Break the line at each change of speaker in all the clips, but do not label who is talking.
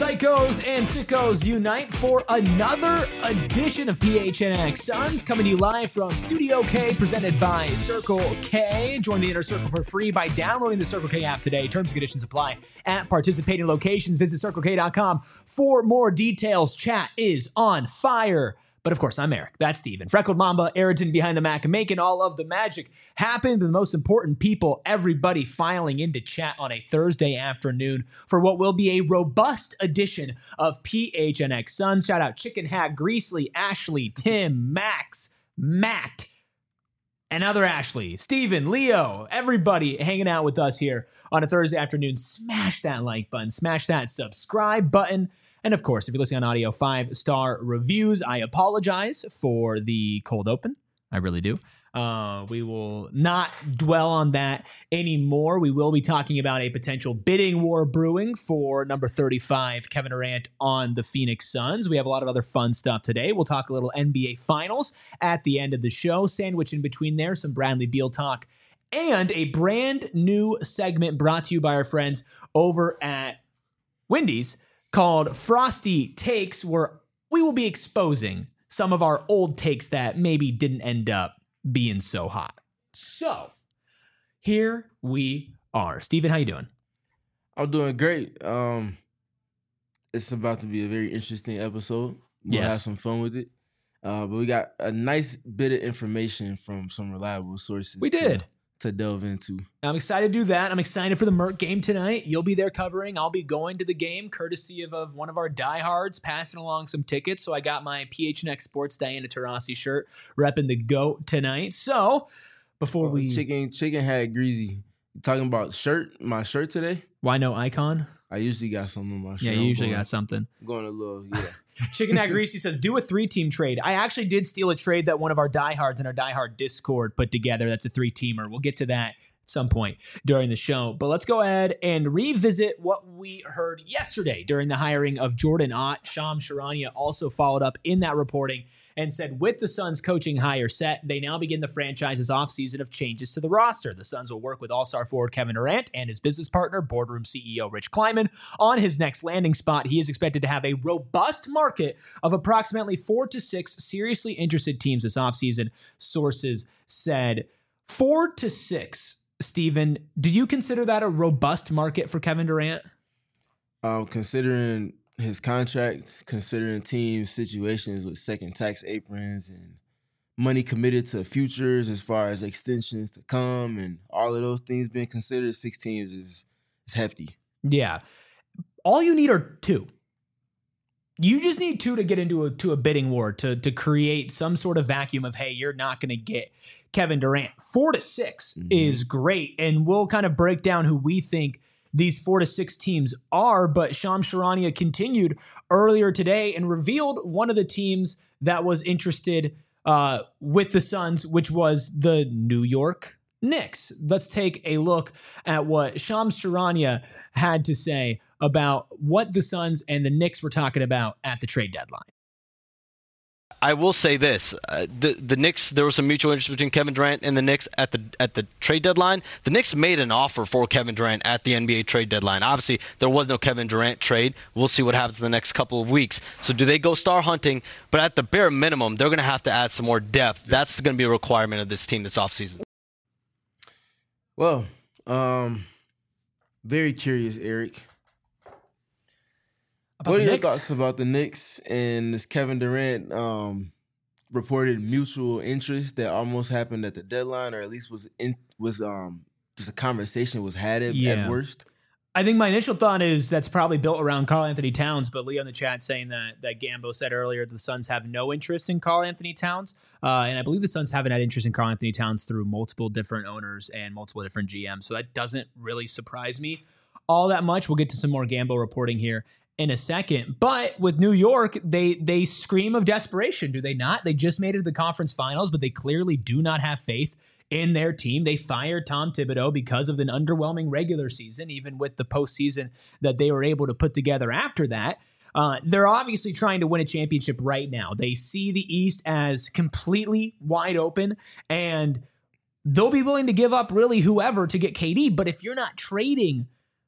Psychos and sickos unite for another edition of PHNX Suns, coming to you live from Studio K, presented by Circle K. Join the Inner Circle for free by downloading the Circle K app today. Terms and conditions apply at participating locations. Visit CircleK.com for more details. Chat is on fire. But of course, I'm Eric. That's Steven. Freckled Mamba, Ayrton behind the Mac, making all of the magic happen. The most important people, everybody filing into chat on a Thursday afternoon for what will be a robust edition of PHNX Suns. Shout out Chicken Hat, Greasely, Ashley, Tim, Max, Matt, and other Ashley, Steven, Leo, everybody hanging out with us here on a Thursday afternoon. Smash that like button, smash that subscribe button. And of course, if you're listening on audio, 5-star reviews. I apologize for the cold open. I really do. We will not dwell on that anymore. We will be talking about a potential bidding war brewing for number 35, Kevin Durant on the Phoenix Suns. We have a lot of other fun stuff today. We'll talk a little NBA Finals at the end of the show. Sandwich in between there, some Bradley Beal talk, and a brand new segment brought to you by our friends over at Wendy's, called Frosty Takes, where we will be exposing some of our old takes that maybe didn't end up being so hot. So, here we are. Steven, how you doing?
I'm doing great. It's about to be a very interesting episode. We'll have some fun with it. But we got a nice bit of information from some reliable sources.
We did.
To delve into.
I'm excited to do that. I'm excited for the Merc game tonight. You'll be there covering. I'll be going to the game, courtesy of one of our diehards, passing along some tickets. So I got my PHNX Sports Diana Taurasi shirt, repping the GOAT tonight. So before we...
Chicken Hat Greasy. You talking about my shirt today?
Why no icon?
I usually got something on my shirt.
Yeah, you usually got something.
I'm going a little,
Chicken Hat Greasy says, do a 3-team trade. I actually did steal a trade that one of our diehards in our diehard Discord put together. That's a 3-teamer. We'll get to that at some point during the show. But let's go ahead and revisit what we heard yesterday during the hiring of Jordan Ott. Shams Charania also followed up in that reporting and said, with the Suns coaching hire set, they now begin the franchise's offseason of changes to the roster. The Suns will work with all-star forward Kevin Durant and his business partner, boardroom CEO Rich Kleiman, on his next landing spot. He is expected to have a robust market of approximately 4 to 6 seriously interested teams this offseason, sources said. 4 to 6. Steven, do you consider that a robust market for Kevin Durant?
Considering his contract, considering team situations with second tax aprons and money committed to futures as far as extensions to come and all of those things being considered, 6 teams is hefty.
Yeah. All you need are 2. You just need 2 to get into a bidding war to create some sort of vacuum of, hey, you're not going to get Kevin Durant. 4 to 6 is great, and we'll kind of break down who we think these 4 to 6 teams are. But Shams Charania continued earlier today and revealed one of the teams that was interested with the Suns, which was the New York Knicks. Let's take a look at what Shams Charania had to say about what the Suns and the Knicks were talking about at the trade deadline.
I will say this: the Knicks. There was some mutual interest between Kevin Durant and the Knicks at the trade deadline. The Knicks made an offer for Kevin Durant at the NBA trade deadline. Obviously, there was no Kevin Durant trade. We'll see what happens in the next couple of weeks. So, do they go star hunting? But at the bare minimum, they're going to have to add some more depth. That's going to be a requirement of this team this offseason.
Well, very curious, Eric. What are your thoughts about the Knicks and this Kevin Durant reported mutual interest that almost happened at the deadline, or at least was just a conversation was had at worst?
I think my initial thought is that's probably built around Karl Anthony Towns, but Leo in the chat saying that Gambo said earlier the Suns have no interest in Karl Anthony Towns, and I believe the Suns haven't had interest in Karl Anthony Towns through multiple different owners and multiple different GMs, so that doesn't really surprise me all that much. We'll get to some more Gambo reporting here in a second. But with New York, they scream of desperation, do they not? They just made it to the conference finals, but they clearly do not have faith in their team. They fired Tom Thibodeau because of an underwhelming regular season, even with the postseason that they were able to put together after that. They're obviously trying to win a championship right now. They see the East as completely wide open, and they'll be willing to give up really whoever to get KD. But if you're not trading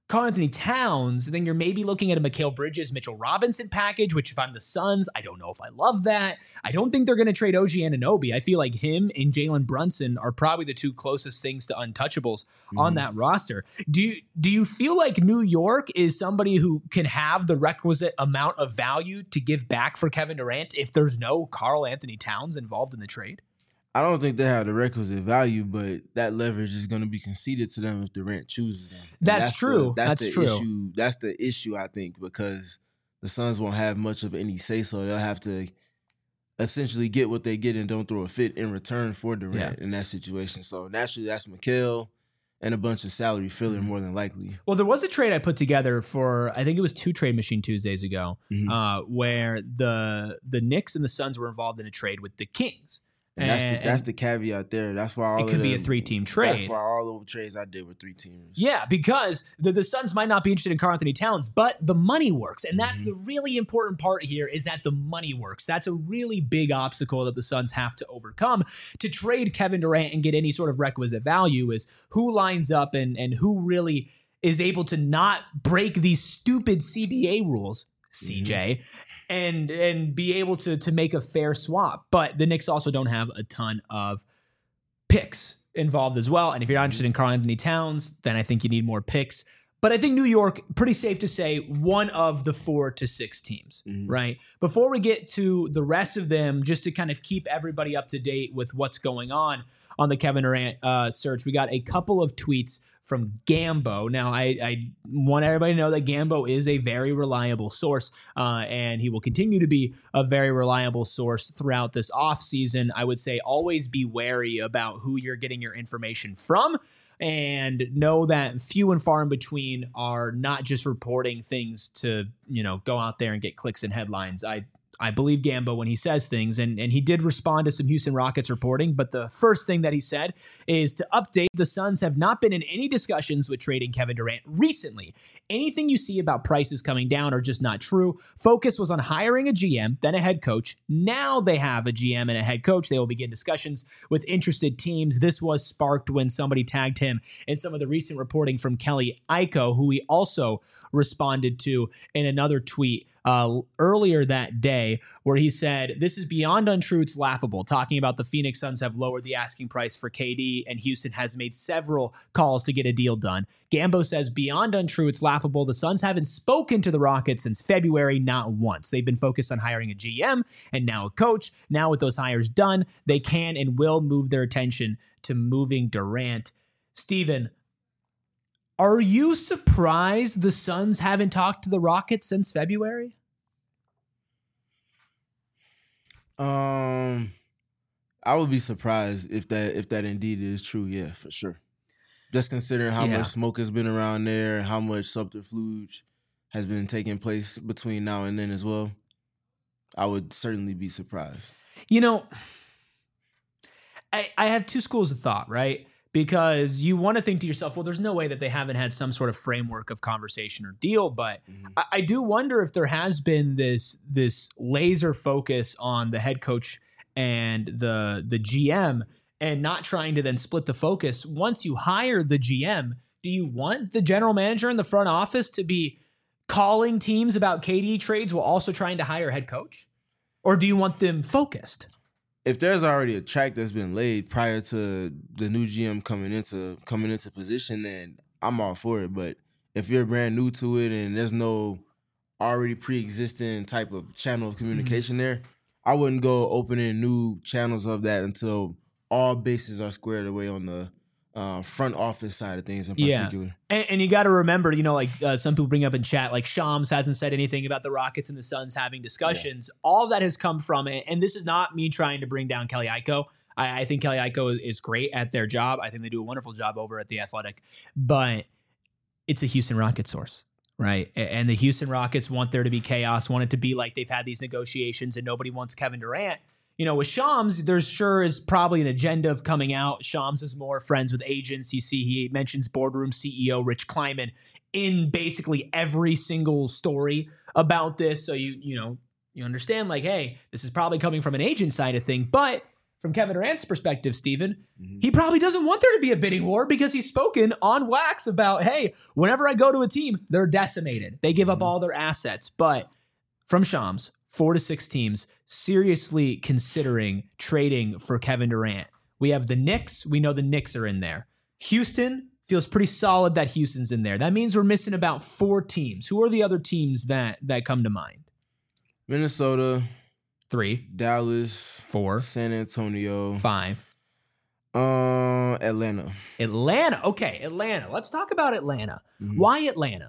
Karl-Anthony Towns, then you're maybe looking at a Mikal Bridges, Mitchell Robinson package, which if I'm the Suns, I don't know if I love that. I don't think they're going to trade OG Anunoby. I feel like him and Jalen Brunson are probably the two closest things to untouchables on that roster. Do you feel like New York is somebody who can have the requisite amount of value to give back for Kevin Durant if there's no Karl-Anthony Towns involved in the trade?
I don't think they have the requisite value, but that leverage is going to be conceded to them if Durant chooses them.
That's true.
That's true. That's the issue, I think, because the Suns won't have much of any say, so they'll have to essentially get what they get and don't throw a fit in return for Durant in that situation. So naturally, that's Mikal and a bunch of salary filler more than likely.
Well, there was a trade I put together for, I think it was 2 Trade Machine Tuesdays ago, where the Knicks and the Suns were involved in a trade with the Kings.
And that's the caveat there. That's why
it could be a 3-team trade.
That's why all the trades I did were 3-teamers.
Yeah, because the Suns might not be interested in Karl-Anthony Towns, but the money works. And that's the really important part here, is that the money works. That's a really big obstacle that the Suns have to overcome to trade Kevin Durant and get any sort of requisite value, is who lines up and who really is able to not break these stupid CBA rules, CJ, and be able to make a fair swap. But the Knicks also don't have a ton of picks involved as well. And if you're not interested in Karl-Anthony Towns, then I think you need more picks. But I think New York, pretty safe to say, one of the 4 to 6 teams, right? Before we get to the rest of them, just to kind of keep everybody up to date with what's going on the Kevin Durant search, we got a couple of tweets from Gambo. Now, I want everybody to know that Gambo is a very reliable source, and he will continue to be a very reliable source throughout this offseason. I would say always be wary about who you're getting your information from, and know that few and far in between are not just reporting things to, go out there and get clicks and headlines. I believe Gambo when he says things, and he did respond to some Houston Rockets reporting, but the first thing that he said is to update, the Suns have not been in any discussions with trading Kevin Durant recently. Anything you see about prices coming down are just not true. Focus was on hiring a GM, then a head coach. Now they have a GM and a head coach. They will begin discussions with interested teams. This was sparked when somebody tagged him in some of the recent reporting from Kelly Iko, who he also responded to in another tweet earlier that day, where he said, "This is beyond untrue. It's laughable." Talking about the Phoenix Suns have lowered the asking price for KD, and Houston has made several calls to get a deal done. Gambo says, "Beyond untrue. It's laughable. The Suns haven't spoken to the Rockets since February, not once. They've been focused on hiring a GM and now a coach. Now with those hires done, they can and will move their attention to moving Durant." Steven, are you surprised the Suns haven't talked to the Rockets since February?
I would be surprised if that indeed is true. Yeah, for sure. Just considering how much smoke has been around there and how much subterfuge has been taking place between now and then as well, I would certainly be surprised.
I have 2 schools of thought, right? Because you want to think to yourself, well, there's no way that they haven't had some sort of framework of conversation or deal. But I do wonder if there has been this laser focus on the head coach and the GM, and not trying to then split the focus. Once you hire the GM, do you want the general manager in the front office to be calling teams about KD trades while also trying to hire a head coach? Or do you want them focused?
If there's already a track that's been laid prior to the new GM coming into position, then I'm all for it. But if you're brand new to it and there's no already pre-existing type of channel of communication there, I wouldn't go opening new channels of that until all bases are squared away on the front office side of things in particular.
And you got to remember, some people bring up in chat, like Shams hasn't said anything about the Rockets and the Suns having discussions. Yeah. All of that has come from it. And this is not me trying to bring down Kelly Iko. I think Kelly Iko is great at their job. I think they do a wonderful job over at The Athletic. But it's a Houston Rockets source, right? And the Houston Rockets want there to be chaos, want it to be like they've had these negotiations and nobody wants Kevin Durant. With Shams, there's sure is probably an agenda of coming out. Shams is more friends with agents. You see, he mentions boardroom CEO Rich Kleiman in basically every single story about this. So you understand, like, hey, this is probably coming from an agent side of thing. But from Kevin Durant's perspective, Steven, he probably doesn't want there to be a bidding war because he's spoken on wax about, hey, whenever I go to a team, they're decimated. They give up all their assets. But from Shams, 4 to 6 teams seriously considering trading for Kevin Durant. We have the Knicks. We know the Knicks are in there. Houston feels pretty solid that Houston's in there. That means we're missing about 4 teams. Who are the other teams that come to mind?
Minnesota,
3,
Dallas,
4,
San Antonio,
5.
Atlanta.
Atlanta. Okay, Atlanta. Let's talk about Atlanta. Why Atlanta?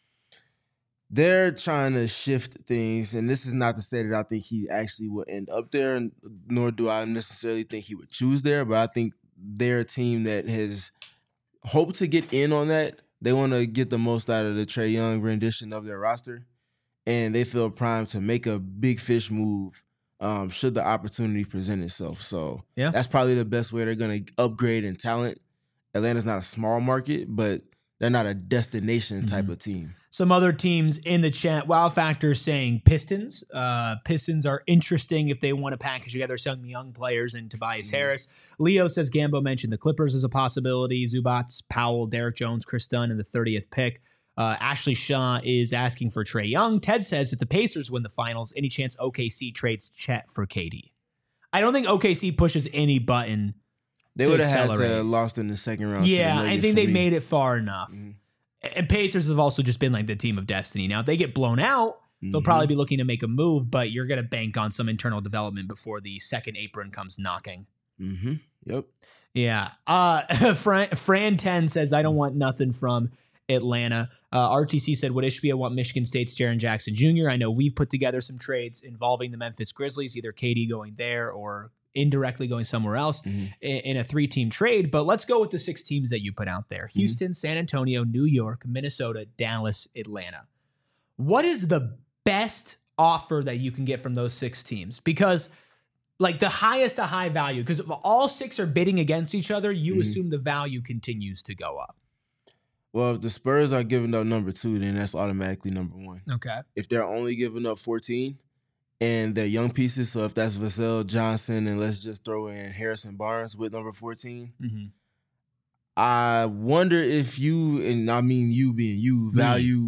They're trying to shift things, and this is not to say that I think he actually will end up there, nor do I necessarily think he would choose there, but I think they're a team that has hoped to get in on that. They want to get the most out of the Trae Young rendition of their roster, and they feel primed to make a big fish move should the opportunity present itself. So that's probably the best way they're going to upgrade in talent. Atlanta's not a small market, but they're not a destination type of team.
Some other teams in the chat, Wow Factor saying Pistons. Pistons are interesting if they want to package together some young players and Tobias Harris. Leo says Gambo mentioned the Clippers as a possibility. Zubats, Powell, Derek Jones, Chris Dunn in the 30th pick. Ashley Shaw is asking for Trae Young. Ted says if the Pacers win the finals, any chance OKC trades Chet for KD? I don't think OKC pushes any button.
They would have had to have lost in the second round.
Yeah, I think they made it far enough. And Pacers have also just been like the team of destiny. Now, if they get blown out, they'll probably be looking to make a move, but you're going to bank on some internal development before the second apron comes knocking.
Yep.
Yeah. Fran 10 says, I don't want nothing from Atlanta. RTC said, would Ishbia want Michigan State's Jaren Jackson Jr.? I know we've put together some trades involving the Memphis Grizzlies, either KD going there or indirectly going somewhere else in a 3-team trade. But let's go with the 6 teams that you put out there. Houston, San Antonio, New York, Minnesota, Dallas, Atlanta. What is the best offer that you can get from those 6 teams? Because like the highest to high value, because if all 6 are bidding against each other, you assume the value continues to go up.
Well, if the Spurs are giving up number 2, then that's automatically number 1.
Okay. If
they're only giving up 14 and they're young pieces, so if that's Vassell Johnson and let's just throw in Harrison Barnes with number 14, I wonder if you, and I mean you being you, value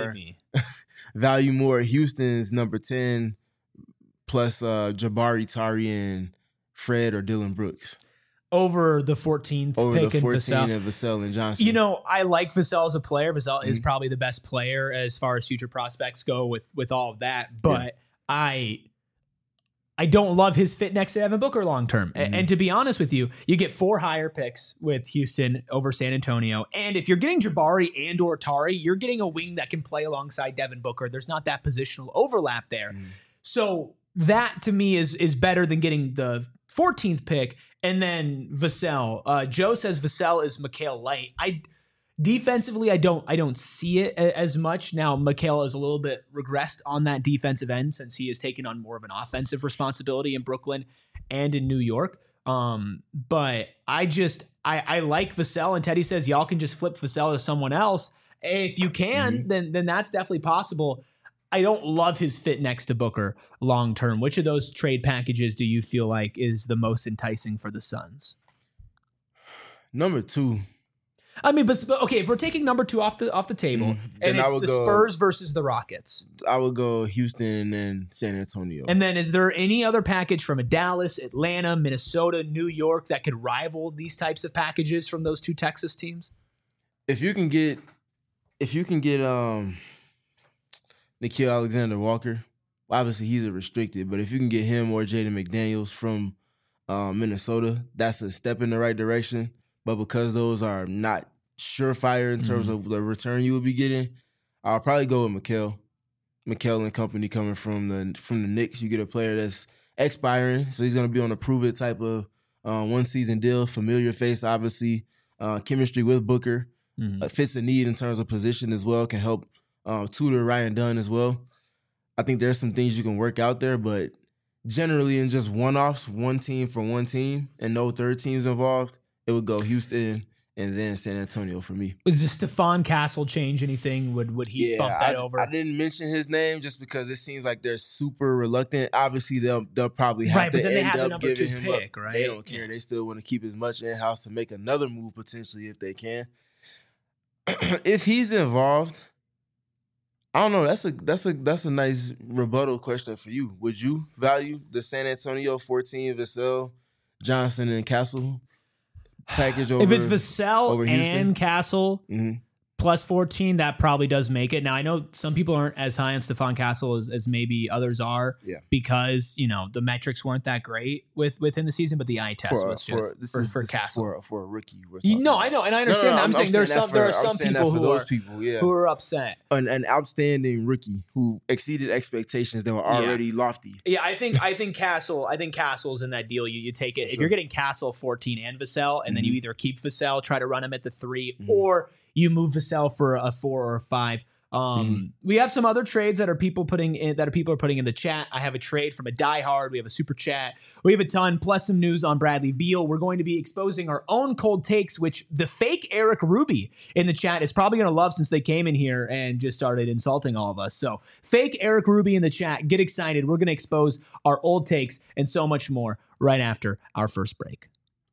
more Houston's number 10 plus Jabari, Tari, and Fred or Dylan Brooks.
Over the 14th pick
the 14
Vassell.
And Vassell and Johnson.
You know, I like Vassell as a player. Vassell is probably the best player as far as future prospects go with all of that. But I don't love his fit next to Devin Booker long term. And to be honest with you, you get 4 higher picks with Houston over San Antonio. And if you're getting Jabari and or Tari, you're getting a wing that can play alongside Devin Booker. There's not that positional overlap there. So that to me is better than getting the 14th pick and then Vassell. Joe says Vassell is Mikal Light. Defensively, I don't see it as much. Now, Mikal is a little bit regressed on that defensive end since he has taken on more of an offensive responsibility in Brooklyn and in New York. But I like Vassell, and Teddy says y'all can just flip Vassell to someone else. If you can, then that's definitely possible. I don't love his fit next to Booker long term. Which of those trade packages do you feel like is the most enticing for the Suns?
Number 2.
I mean, but okay, if we're taking number 2 off the table, and it's the Spurs versus the Rockets,
I would go Houston and then San Antonio.
And then is there any other package from a Dallas, Atlanta, Minnesota, New York that could rival these types of packages from those 2 Texas teams?
If you can get Nickeil Alexander-Walker, obviously he's a restricted, but if you can get him or Jaden McDaniels from Minnesota, that's a step in the right direction. But because those are not surefire in terms of the return you would be getting, I'll probably go with Mikal and company coming from the Knicks. You get a player that's expiring, so he's going to be on a prove-it type of one-season deal. Familiar face, obviously. Chemistry with Booker. Fits a need in terms of position as well. Can help tutor Ryan Dunn as well. I think there's some things you can work out there, but generally in just one-offs, one team for one team, and no third teams involved, it would go Houston and then San Antonio for me.
Does Stephon Castle change anything? Would he bump that over?
I didn't mention his name just because it seems like they're super reluctant. Obviously, they'll probably have to end up giving him up.
Right?
They don't care. They still want to keep as much in-house to make another move potentially if they can. If he's involved, I don't know. That's a nice rebuttal question for you. Would you value the San Antonio 14 Vassell, Johnson, and Castle package over?
If it's Vassell and Castle plus 14, that probably does make it. Now, I know some people aren't as high on Stephon Castle as maybe others are because, the metrics weren't that great within the season, but the eye test was just for Castle.
For a rookie.
No, I know, and I understand that. I'm saying there are some people who are upset.
An outstanding rookie who exceeded expectations that were already lofty.
Yeah, I think Castle's in that deal. You take it. If you're getting Castle 14 and Vassell, and then you either keep Vassell, try to run him at the 3, or you move Vassell for a 4 or a 5. We have some other trades that people are putting in the chat. I have a trade from a diehard. We have a super chat. We have a ton, plus some news on Bradley Beal. We're going to be exposing our own cold takes, which the fake Eric Ruby in the chat is probably going to love since they came in here and just started insulting all of us. So fake Eric Ruby in the chat. Get excited. We're going to expose our old takes and so much more right after our first break.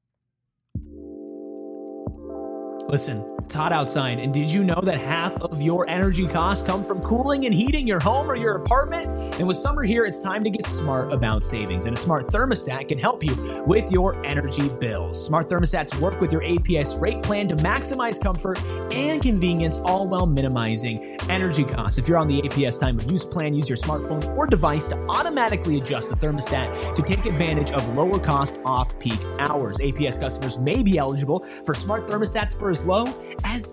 Listen, it's hot outside, and did you know that half of your energy costs come from cooling and heating your home or your apartment? And with summer here, it's time to get smart about savings, and a smart thermostat can help you with your energy bills. Smart thermostats work with your APS rate plan to maximize comfort and convenience, all while minimizing energy costs. If you're on the APS time of use plan, use your smartphone or device to automatically adjust the thermostat to take advantage of lower cost off-peak hours. APS customers may be eligible for smart thermostats for as low as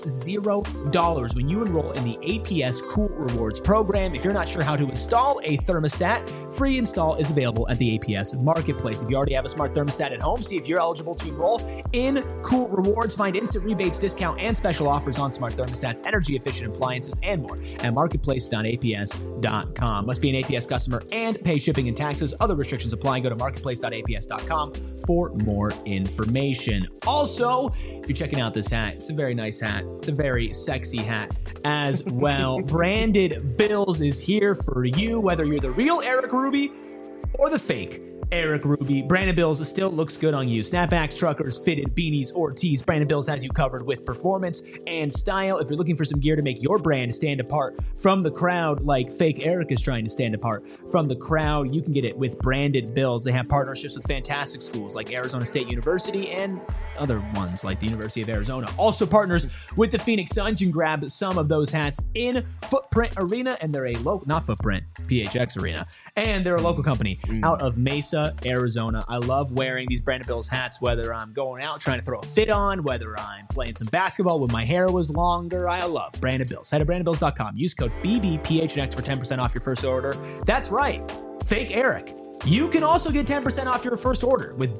$0 when you enroll in the APS Cool Rewards program. If you're not sure how to install a thermostat, free install is available at the APS Marketplace. If you already have a smart thermostat at home, see if you're eligible to enroll in Cool Rewards. Find instant rebates, discount, and special offers on smart thermostats, energy-efficient appliances, and more at marketplace.aps.com. Must be an APS customer and pay shipping and taxes. Other restrictions apply. Go to marketplace.aps.com for more information. Also, if you're checking out this hat, it's a very nice hat. It's a very sexy hat as well. Branded Bills is here for you, whether you're the real Eric Ruby or the fake Eric Ruby. Branded Bills still looks good on you. Snapbacks, truckers, fitted, beanies, or tees. Branded Bills has you covered with performance and style. If you're looking for some gear to make your brand stand apart from the crowd, like fake Eric is trying to stand apart from the crowd, you can get it with Branded Bills. They have partnerships with fantastic schools like Arizona State University and other ones like the University of Arizona. Also partners with the Phoenix Suns. You can grab some of those hats in Footprint Arena, and they're a local, not Footprint, PHX Arena, and they're a local company out of Mesa, Arizona. I love wearing these Branded Bills hats, whether I'm going out trying to throw a fit on, whether I'm playing some basketball when my hair was longer. I love Branded Bills. Head to brandedbills.com. Use code BBPHNX for 10% off your first order. That's right, fake Eric. You can also get 10% off your first order with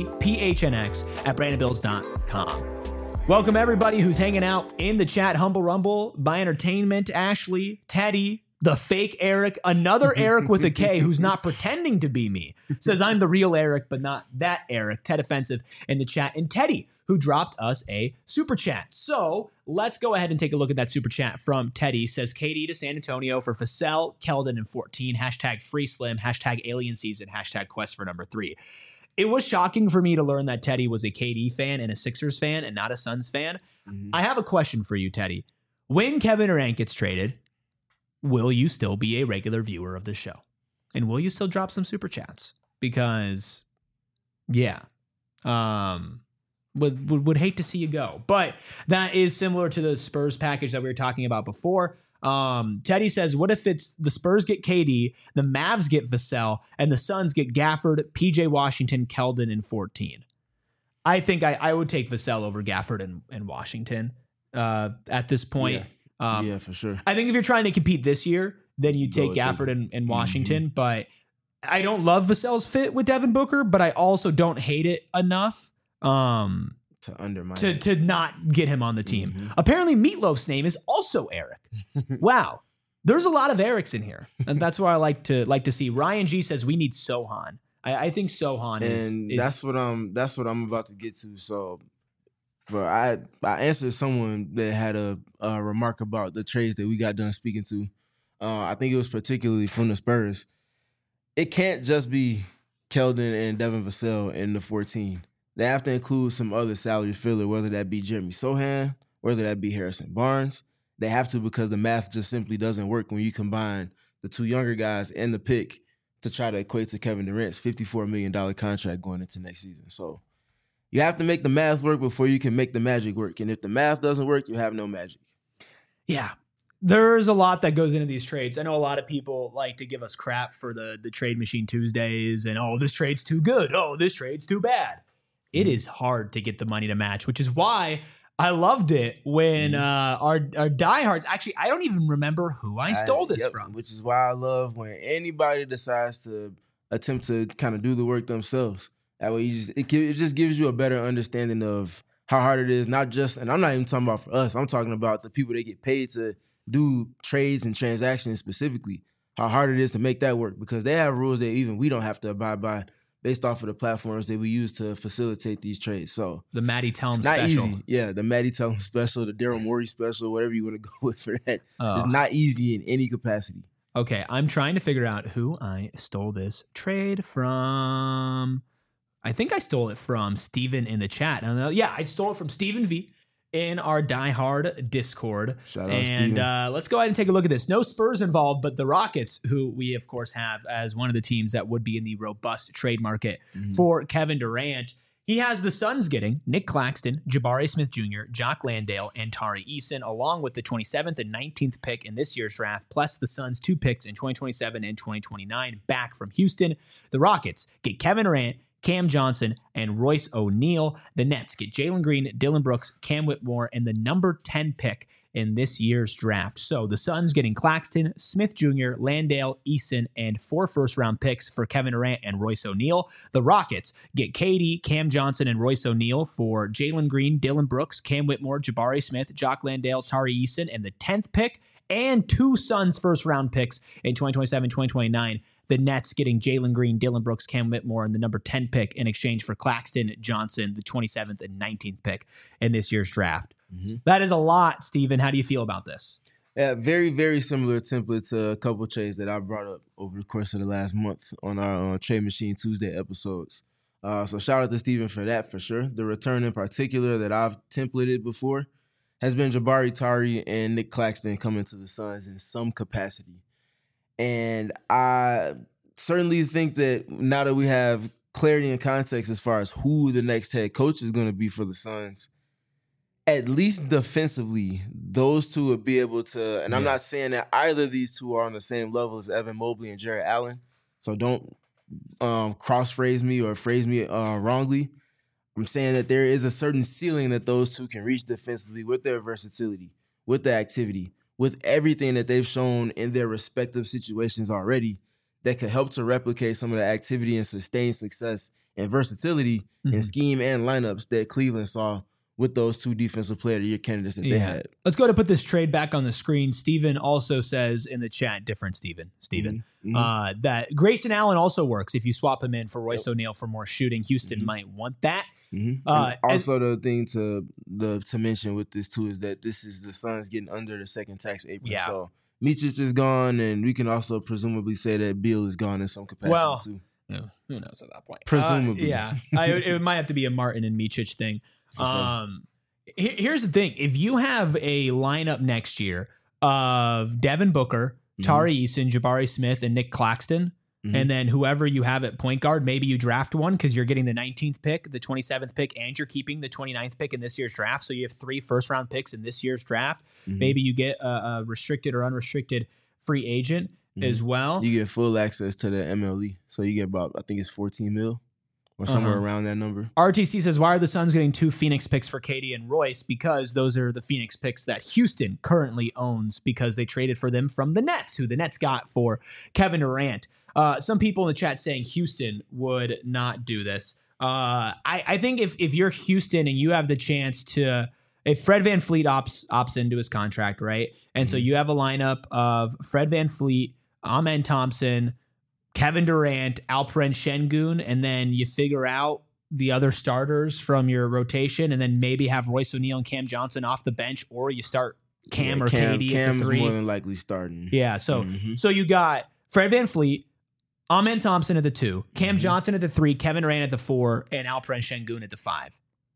BBPHNX at brandedbills.com. Welcome everybody who's hanging out in the chat. Humble Rumble, by Entertainment, Ashley, Teddy, the fake Eric, another Eric with a K who's not pretending to be me, says I'm the real Eric, but not that Eric. Ted Offensive in the chat. And Teddy, who dropped us a super chat. So let's go ahead and take a look at that super chat from Teddy. Says KD to San Antonio for Vassell, Keldon, and 14. Hashtag free slim. Hashtag alien season. Hashtag quest for number 3. It was shocking for me to learn that Teddy was a KD fan and a Sixers fan and not a Suns fan. I have a question for you, Teddy. When Kevin Durant gets traded, will you still be a regular viewer of the show? And will you still drop some super chats? Because, yeah, would hate to see you go. But that is similar to the Spurs package that we were talking about before. Teddy says, what if it's the Spurs get KD, the Mavs get Vassell, and the Suns get Gafford, PJ Washington, Keldon, and 14? I think I would take Vassell over Gafford and Washington at this point.
Yeah, for sure.
I think if you're trying to compete this year, then you take Gafford and Washington. But I don't love Vassell's fit with Devin Booker, but I also don't hate it enough
to undermine
to not get him on the team. Apparently, Meatloaf's name is also Eric. Wow, there's a lot of Erics in here, and that's why I like to see. Ryan G says we need Sohan. I think Sohan is
that's what I'm about to get to. So But I answered someone that had a remark about the trades that we got done speaking to. I think it was particularly from the Spurs. It can't just be Keldon and Devin Vassell in the 14. They have to include some other salary filler, whether that be Jeremy Sohan, whether that be Harrison Barnes. They have to, because the math just simply doesn't work when you combine the two younger guys and the pick to try to equate to Kevin Durant's $54 million contract going into next season. So you have to make the math work before you can make the magic work. And if the math doesn't work, you have no magic.
Yeah. There's a lot that goes into these trades. I know a lot of people like to give us crap for the Trade Machine Tuesdays and, oh, this trade's too good. Oh, this trade's too bad. It is hard to get the money to match, which is why I loved it when our diehards, actually, I don't even remember who I stole this from.
Which is why I love when anybody decides to attempt to kind of do the work themselves. That way it just gives you a better understanding of how hard it is, not just, and I'm not even talking about for us, I'm talking about the people that get paid to do trades and transactions specifically, how hard it is to make that work, because they have rules that even we don't have to abide by based off of the platforms that we use to facilitate these trades. So
the Matty Tellum
it's not
special.
Easy. Yeah, the Matty Tellum special, the Daryl Morey special, whatever you want to go with for that. It's not easy in any capacity.
Okay, I'm trying to figure out who I stole this trade from. I think I stole it from Steven in the chat. Yeah, I stole it from Steven V in our Die Hard Discord.
Shout out, Steven.
And let's go ahead and take a look at this. No Spurs involved, but the Rockets, who we, of course, have as one of the teams that would be in the robust trade market for Kevin Durant. He has the Suns getting Nick Claxton, Jabari Smith Jr., Jock Landale, and Tari Eason, along with the 27th and 19th pick in this year's draft, plus the Suns' 2 picks in 2027 and 2029 back from Houston. The Rockets get Kevin Durant, Cam Johnson, and Royce O'Neal. The Nets get Jalen Green, Dylan Brooks, Cam Whitmore, and the number 10 pick in this year's draft. So the Suns getting Claxton, Smith Jr., Landale, Eason, and 4 first-round picks for Kevin Durant and Royce O'Neal. The Rockets get KD, Cam Johnson, and Royce O'Neal for Jalen Green, Dylan Brooks, Cam Whitmore, Jabari Smith, Jock Landale, Tari Eason, and the 10th pick, and 2 Suns first-round picks in 2027, 2029. The Nets getting Jalen Green, Dylan Brooks, Cam Whitmore, and the number 10 pick in exchange for Claxton, Johnson, the 27th and 19th pick in this year's draft. That is a lot, Steven. How do you feel about this?
Yeah, very, very similar template to a couple trades that I brought up over the course of the last month on our Trade Machine Tuesday episodes. So shout out to Steven for that, for sure. The return in particular that I've templated before has been Jabari, Tari, and Nick Claxton coming to the Suns in some capacity. And I certainly think that now that we have clarity and context as far as who the next head coach is going to be for the Suns, at least defensively, those two would be able to, and I'm not saying that either of these two are on the same level as Evan Mobley and Jarrett Allen, so don't cross-phrase me or phrase me wrongly. I'm saying that there is a certain ceiling that those two can reach defensively with their versatility, with the activity, with everything that they've shown in their respective situations already that could help to replicate some of the activity and sustained success and versatility in scheme and lineups that Cleveland saw with those 2 defensive player of the year candidates that they had.
Let's go to put this trade back on the screen. Steven also says in the chat, different Steven, that Grayson Allen also works if you swap him in for Royce O'Neal for more shooting. Houston might want that.
Also, the thing to mention with this too is that this is the Suns getting under the second tax apron.
Yeah.
So Micic is gone, and we can also presumably say that Beal is gone in some capacity too.
Who knows at that point?
Presumably,
it might have to be a Martin and Micic thing. Here's the thing: if you have a lineup next year of Devin Booker, Tari Eason, Jabari Smith, and Nick Claxton, and then whoever you have at point guard, maybe you draft one because you're getting the 19th pick, the 27th pick, and you're keeping the 29th pick in this year's draft. So you have 3 first-round picks in this year's draft. Maybe you get a restricted or unrestricted free agent as well.
You get full access to the MLE. So you get about, I think it's 14 mil. Or somewhere around that number.
RTC says, why are the Suns getting 2 Phoenix picks for KD and Royce? Because those are the Phoenix picks that Houston currently owns because they traded for them from the Nets, who the Nets got for Kevin Durant. Some people in the chat saying Houston would not do this. I think if you're Houston and you have the chance to, if Fred VanVleet opts into his contract, right? And so you have a lineup of Fred VanVleet, Amen Thompson, Kevin Durant, Alperen Şengün, and then you figure out the other starters from your rotation and then maybe have Royce O'Neal and Cam Johnson off the bench, or you start Cam or KD
Cam
at the 3.
is more than likely starting.
Yeah, so you got Fred VanVleet, Amen Thompson at the 2, Cam Johnson at the 3, Kevin Durant at the 4, and Alperen Şengün at the 5.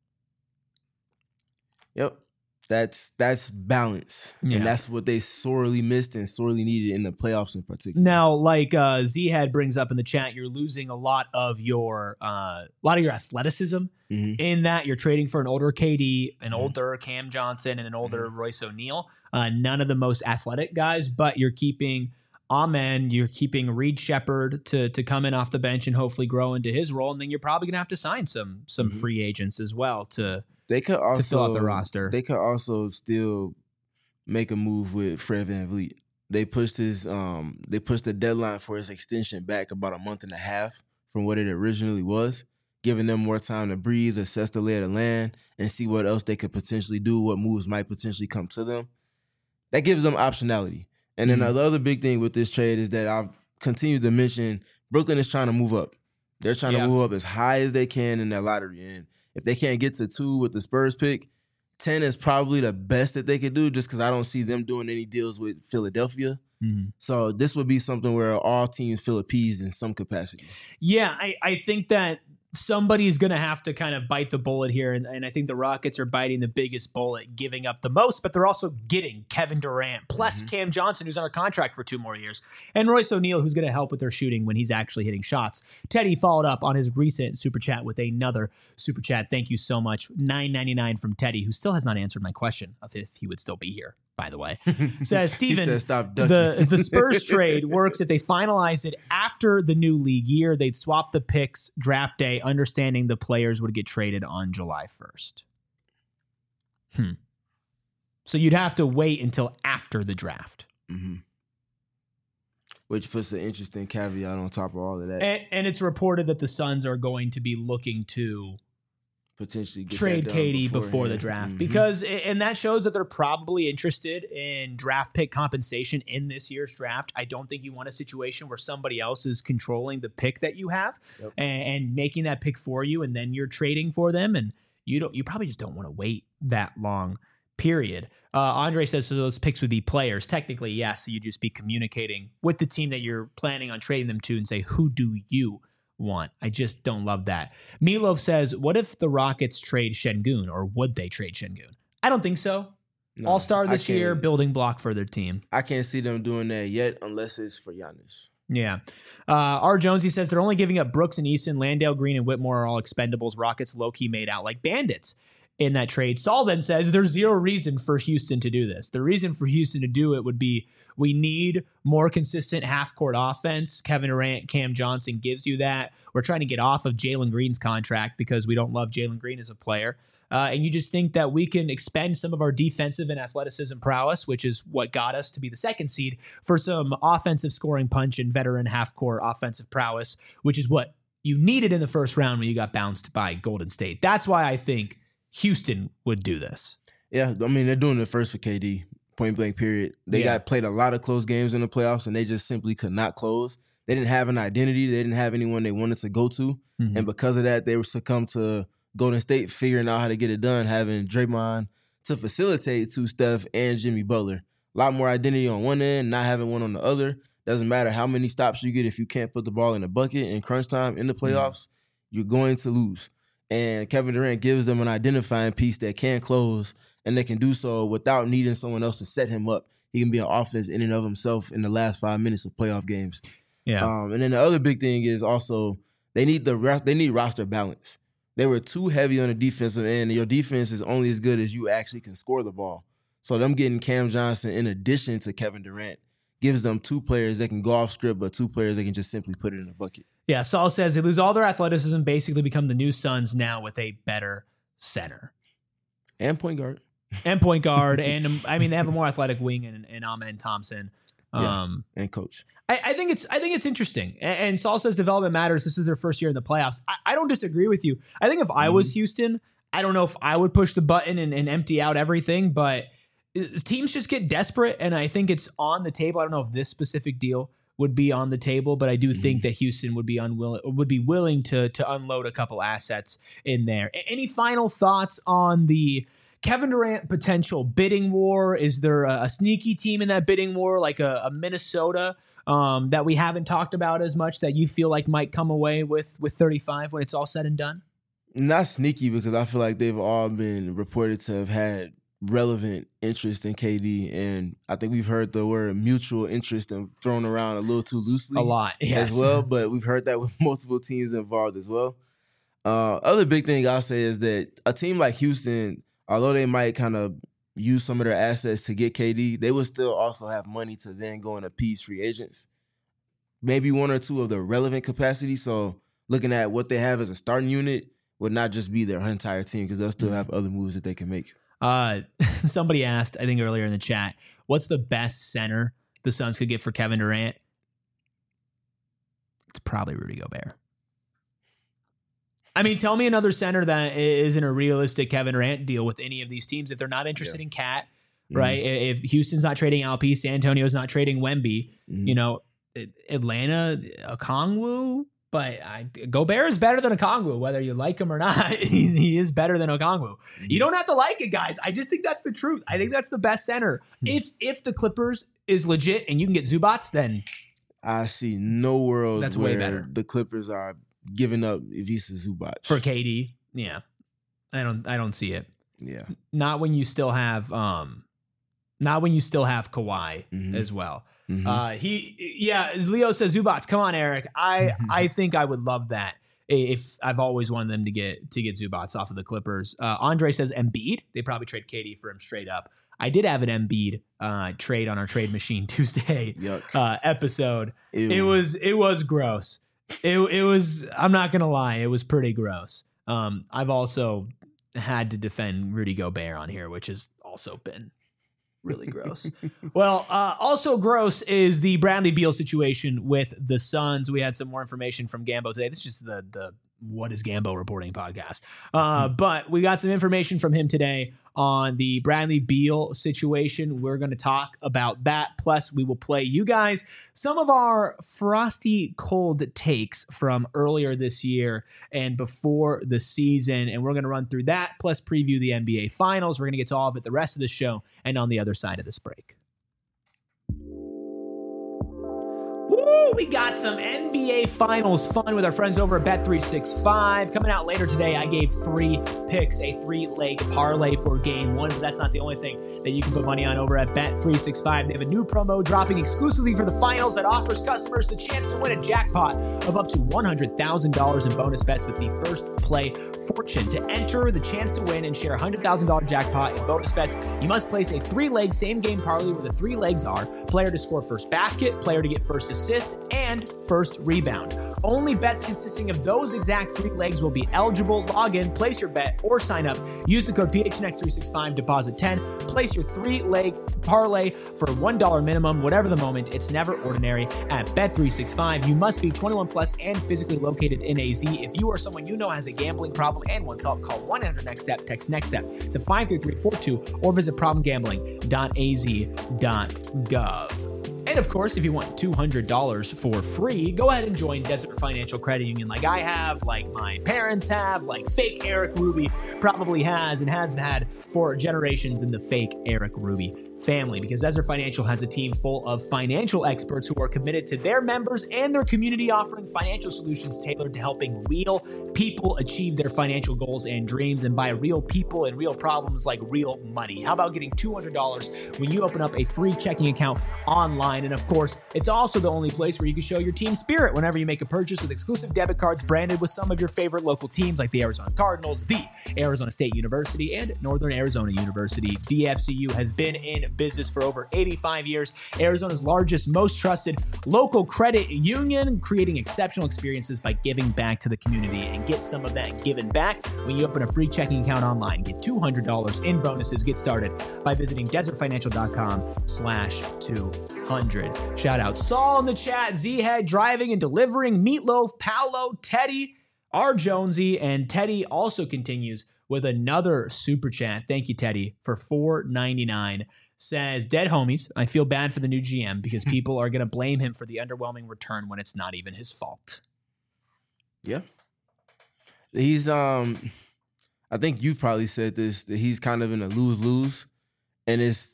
Yep. That's balance.
Yeah.
And that's what they sorely missed and sorely needed in the playoffs in particular.
Now, like Z-Head brings up in the chat, you're losing a lot of your athleticism in that you're trading for an older KD, an older Cam Johnson, and an older Royce O'Neal. None of the most athletic guys, but you're keeping Amen, you're keeping Reed Shepherd to come in off the bench and hopefully grow into his role, and then you're probably gonna have to sign some free agents as well to fill out the roster.
They could also still make a move with Fred VanVleet. They pushed the deadline for his extension back about a month and a half from what it originally was, giving them more time to breathe, assess the lay of the land, and see what else they could potentially do, what moves might potentially come to them. That gives them optionality. And then the other big thing with this trade is that I've continued to mention Brooklyn is trying to move up. They're trying to move up as high as they can in their lottery. And if they can't get to 2 with the Spurs pick, 10 is probably the best that they could do, just because I don't see them doing any deals with Philadelphia. So this would be something where all teams feel appeased in some capacity.
Yeah, I think that somebody's going to have to kind of bite the bullet here, and I think the Rockets are biting the biggest bullet, giving up the most, but they're also getting Kevin Durant, plus Cam Johnson, who's under contract for 2 more years, and Royce O'Neal, who's going to help with their shooting when he's actually hitting shots. Teddy followed up on his recent Super Chat with another Super Chat. Thank you so much. $9.99 from Teddy, who still has not answered my question of if he would still be here, by the way. Says, Steven,
stop ducking.
the Spurs trade works if they finalize it after the new league year. They'd swap the picks draft day, understanding the players would get traded on July 1st. So you'd have to wait until after the draft.
Which puts an interesting caveat on top of all of that.
And it's reported that the Suns are going to be looking to
potentially get
trade
that done
KD before the draft because, and that shows that they're probably interested in draft pick compensation in this year's draft. I don't think you want a situation where somebody else is controlling the pick that you have and making that pick for you, and then you're trading for them, and you probably just don't want to wait that long. Period. Andre says, so those picks would be players. Technically, yes. So you'd just be communicating with the team that you're planning on trading them to and say, who do you want? I just don't love that. Milo says, what if the Rockets trade Şengün, or would they trade Şengün? I don't think so. No, All-star this year, building block for their team.
I can't see them doing that yet unless it's for Giannis.
Yeah. R. Jonesy says they're only giving up Brooks and Easton. Landale, Green, and Whitmore are all expendables. Rockets low-key made out like bandits in that trade. Saul then says there's zero reason for Houston to do this. The reason for Houston to do it would be we need more consistent half-court offense. Kevin Durant, Cam Johnson gives you that. We're trying to get off of Jalen Green's contract because we don't love Jalen Green as a player. And you just think that we can expend some of our defensive and athleticism prowess, which is what got us to be the 2nd seed, for some offensive scoring punch and veteran half-court offensive prowess, which is what you needed in the first round when you got bounced by Golden State. That's why I think Houston would do this.
Yeah, I mean, they're doing it first for KD, point blank period. They got played a lot of close games in the playoffs, and they just simply could not close. They didn't have an identity. They didn't have anyone they wanted to go to. And because of that, they were succumbed to Golden State figuring out how to get it done, having Draymond to facilitate to Steph and Jimmy Butler. A lot more identity on one end, not having one on the other. Doesn't matter how many stops you get if you can't put the ball in the bucket in crunch time in the playoffs, you're going to lose. And Kevin Durant gives them an identifying piece that can close, and they can do so without needing someone else to set him up. He can be an offense in and of himself in the last 5 minutes of playoff games.
Yeah.
And then the other big thing is also they need roster balance. They were too heavy on the defensive end, and your defense is only as good as you actually can score the ball. So them getting Cam Johnson in addition to Kevin Durant gives them 2 players that can go off script, but 2 players that can just simply put it in a bucket.
Yeah, Saul says they lose all their athleticism, basically become the new Suns now with a better center.
And point guard.
And I mean, they have a more athletic wing in Amen Thompson.
And coach.
I think it's interesting. And Saul says development matters. This is their first year in the playoffs. I don't disagree with you. I think if I was Houston, I don't know if I would push the button and empty out everything, but teams just get desperate, and I think it's on the table. I don't know if this specific deal would be on the table, but I do think that Houston would be willing to unload a couple assets in there. Any final thoughts on the Kevin Durant potential bidding war? Is there a sneaky team in that bidding war, like a Minnesota, that we haven't talked about as much, that you feel like might come away with 35 when it's all said and done?
Not sneaky, because I feel like they've all been reported to have had relevant interest in KD, and I think we've heard the word mutual interest and thrown around a little too loosely.
A lot, yes.
As well, but we've heard that with multiple teams involved as well. Other big thing I'll say is that a team like Houston, although they might kind of use some of their assets to get KD, they would still also have money to then go and appease free agents. Maybe one or two of the relevant capacity. So looking at what they have as a starting unit would not just be their entire team, because they'll still have other moves that they can make.
Somebody asked, I think earlier in the chat, what's the best center the Suns could get for Kevin Durant? It's probably Rudy Gobert. I mean, tell me another center that isn't a realistic Kevin Durant deal with any of these teams. If they're not interested in Cat, right? If Houston's not trading Alpi, San Antonio's not trading Wemby, you know, Atlanta, Okongwu. But Gobert is better than Okongwu, whether you like him or not. He is better than Okongwu. You don't have to like it, guys. I just think that's the truth. I think that's the best center. If the Clippers is legit and you can get Zubats, then
I see no world
that's
where
way better.
The Clippers are giving up Ivica Zubac
For KD. Yeah. I don't see it.
Yeah.
Not when you still have Kawhi as well. Leo says Zubats. Come on, Eric. I think I would love that. If I've always wanted them to get Zubats off of the Clippers. Andre says Embiid. They probably trade KD for him straight up. I did have an Embiid trade on our Trade Machine Tuesday episode. Ew. It was gross. It was. I'm not gonna lie. It was pretty gross. I've also had to defend Rudy Gobert on here, which has also been really gross. Well, also gross is the Bradley Beal situation with the Suns. We had some more information from Gambo today. This is just the What is Gambo reporting podcast. But we got some information from him today on the Bradley Beal situation. We're going to talk about that. Plus, we will play you guys some of our frosty cold takes from earlier this year and before the season. And we're going to run through that, plus preview the NBA Finals. We're going to get to all of it the rest of the show and on the other side of this break. Woo! We got some NBA Finals fun with our friends over at Bet365. Coming out later today, I gave 3 picks, a 3-leg parlay for Game 1, but that's not the only thing that you can put money on over at Bet365. They have a new promo dropping exclusively for the Finals that offers customers the chance to win a jackpot of up to $100,000 in bonus bets with the first play fortune. To enter the chance to win and share a $100,000 jackpot in bonus bets, you must place a 3-leg same-game parlay where the 3 legs are player to score first basket, player to get first assist, and first rebound. Only bets consisting of those exact 3 legs will be eligible. Log in, place your bet, or sign up. Use the code PHNX365, deposit 10. Place your 3-leg parlay for $1 minimum, whatever the moment. It's never ordinary at Bet365. You must be 21 plus and physically located in AZ. If you or someone you know has a gambling problem and wants help, call 1-800-NEXT-STEP, text NEXT-STEP to 53342 or visit problemgambling.az.gov. And of course, if you want $200 for free, go ahead and join Desert Financial Credit Union like I have, like my parents have, like fake Eric Ruby probably has and has had for generations in the fake Eric Ruby family, because Desert Financial has a team full of financial experts who are committed to their members and their community, offering financial solutions tailored to helping real people achieve their financial goals and dreams. And by real people and real problems, like real money. How about getting $200 when you open up a free checking account online? And of course, it's also the only place where you can show your team spirit whenever you make a purchase with exclusive debit cards branded with some of your favorite local teams like the Arizona Cardinals, the Arizona State University, and Northern Arizona University. DFCU has been in business for over 85 years. Arizona's largest, most trusted local credit union, creating exceptional experiences by giving back to the community. And get some of that given back when you open a free checking account online. Get $200 in bonuses. Get started by visiting desertfinancial.com/200. Shout out Saul in the chat, Z-Head driving and delivering, Meatloaf, Paolo, Teddy, R. Jonesy, and Teddy also continues with another super chat. Thank you, Teddy, for $4.99. says, dead homies, I feel bad for the new GM because people are going to blame him for the underwhelming return when it's not even his fault.
Yeah. He's, I think you probably said this, that he's kind of in a lose-lose. And it's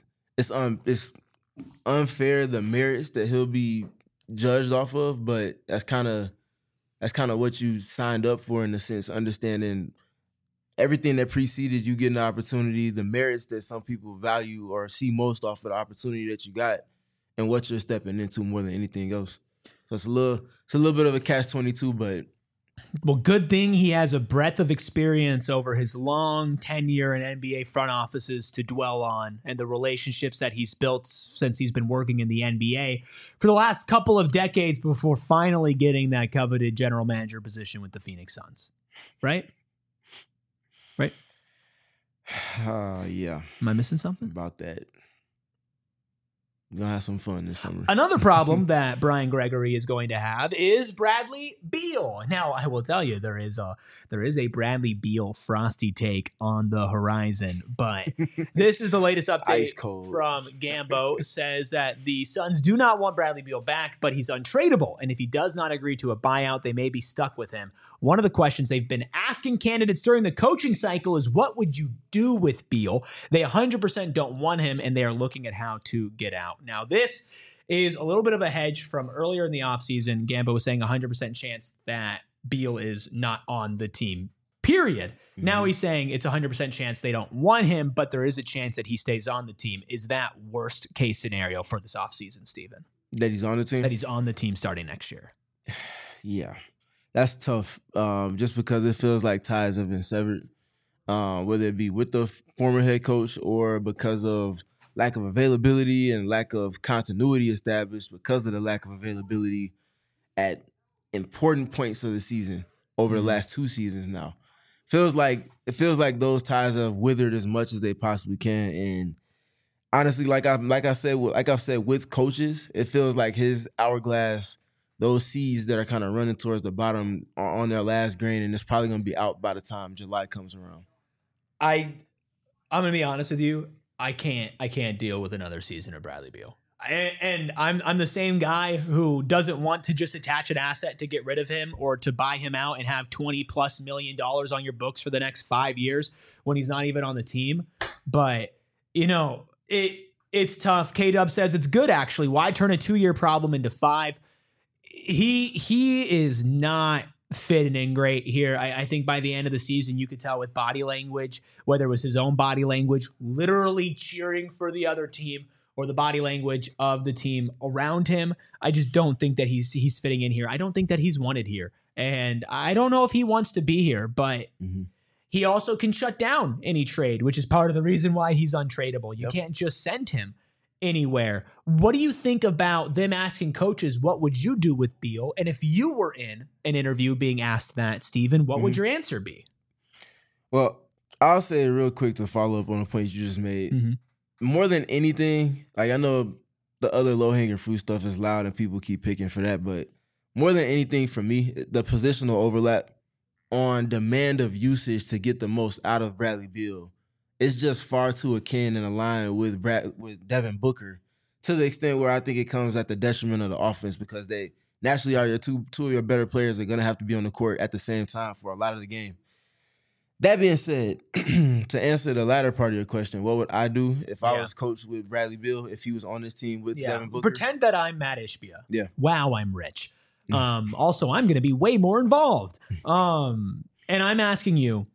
unfair, the merits that he'll be judged off of, but that's kind of what you signed up for, in a sense, understanding everything that preceded you getting the opportunity, the merits that some people value or see most off of the opportunity that you got, and what you're stepping into more than anything else. So it's a little bit of a catch-22, but
well, good thing he has a breadth of experience over his long tenure in NBA front offices to dwell on, and the relationships that he's built since he's been working in the NBA for the last couple of decades before finally getting that coveted general manager position with the Phoenix Suns. Right? Right?
Yeah.
Am I missing something?
About that. We're going to have some fun this summer.
Another problem that Brian Gregory is going to have is Bradley Beal. Now, I will tell you, there is a Bradley Beal frosty take on the horizon, but this is the latest update from Gambo. Says that the Suns do not want Bradley Beal back, but he's untradeable, and if he does not agree to a buyout, they may be stuck with him. One of the questions they've been asking candidates during the coaching cycle is, what would you do with Beal? They 100% don't want him, and they are looking at how to get out. Now, this is a little bit of a hedge from earlier in the offseason. Gambo was saying 100% chance that Beal is not on the team, period. Mm-hmm. Now he's saying it's 100% chance they don't want him, but there is a chance that he stays on the team. Is that worst case scenario for this offseason, Steven?
That he's on the team?
That he's on the team starting next year.
Yeah, that's tough, just because it feels like ties have been severed, whether it be with the former head coach or because of lack of availability and lack of continuity established because of the lack of availability at important points of the season over the last 2 seasons now. It feels like those ties have withered as much as they possibly can. And honestly, like I've said with coaches, it feels like his hourglass, those seeds that are kind of running towards the bottom are on their last grain, and it's probably going to be out by the time July comes around.
I'm going to be honest with you. I can't deal with another season of Bradley Beal. And I'm the same guy who doesn't want to just attach an asset to get rid of him or to buy him out and have $20+ million on your books for the next 5 years when he's not even on the team. But, it's tough. K-Dub says it's good, actually. Why turn a 2-year problem into 5? He is not fitting in great here. I think by the end of the season, you could tell with body language, whether it was his own body language, literally cheering for the other team, or the body language of the team around him. I just don't think that he's fitting in here. I don't think that he's wanted here. And I don't know if he wants to be here, but he also can shut down any trade, which is part of the reason why he's untradeable. You can't just send him anywhere. What do you think about them asking coaches, what would you do with Beal? And if you were in an interview being asked that, Steven, what would your answer be?
Well, I'll say real quick to follow up on the point you just made. More than anything, like, I know the other low-hanging fruit stuff is loud and people keep picking for that, but more than anything for me, the positional overlap on demand of usage to get the most out of Bradley Beal is just far too akin and aligned with Devin Booker, to the extent where I think it comes at the detriment of the offense, because they naturally are two of your better players are going to have to be on the court at the same time for a lot of the game. That being said, to answer the latter part of your question, what would I do if I was coached with Bradley Beal, if he was on this team with Devin Booker?
Pretend that I'm Matt Ishbia.
Yeah.
Wow, I'm rich. Also, I'm going to be way more involved. And I'm asking you,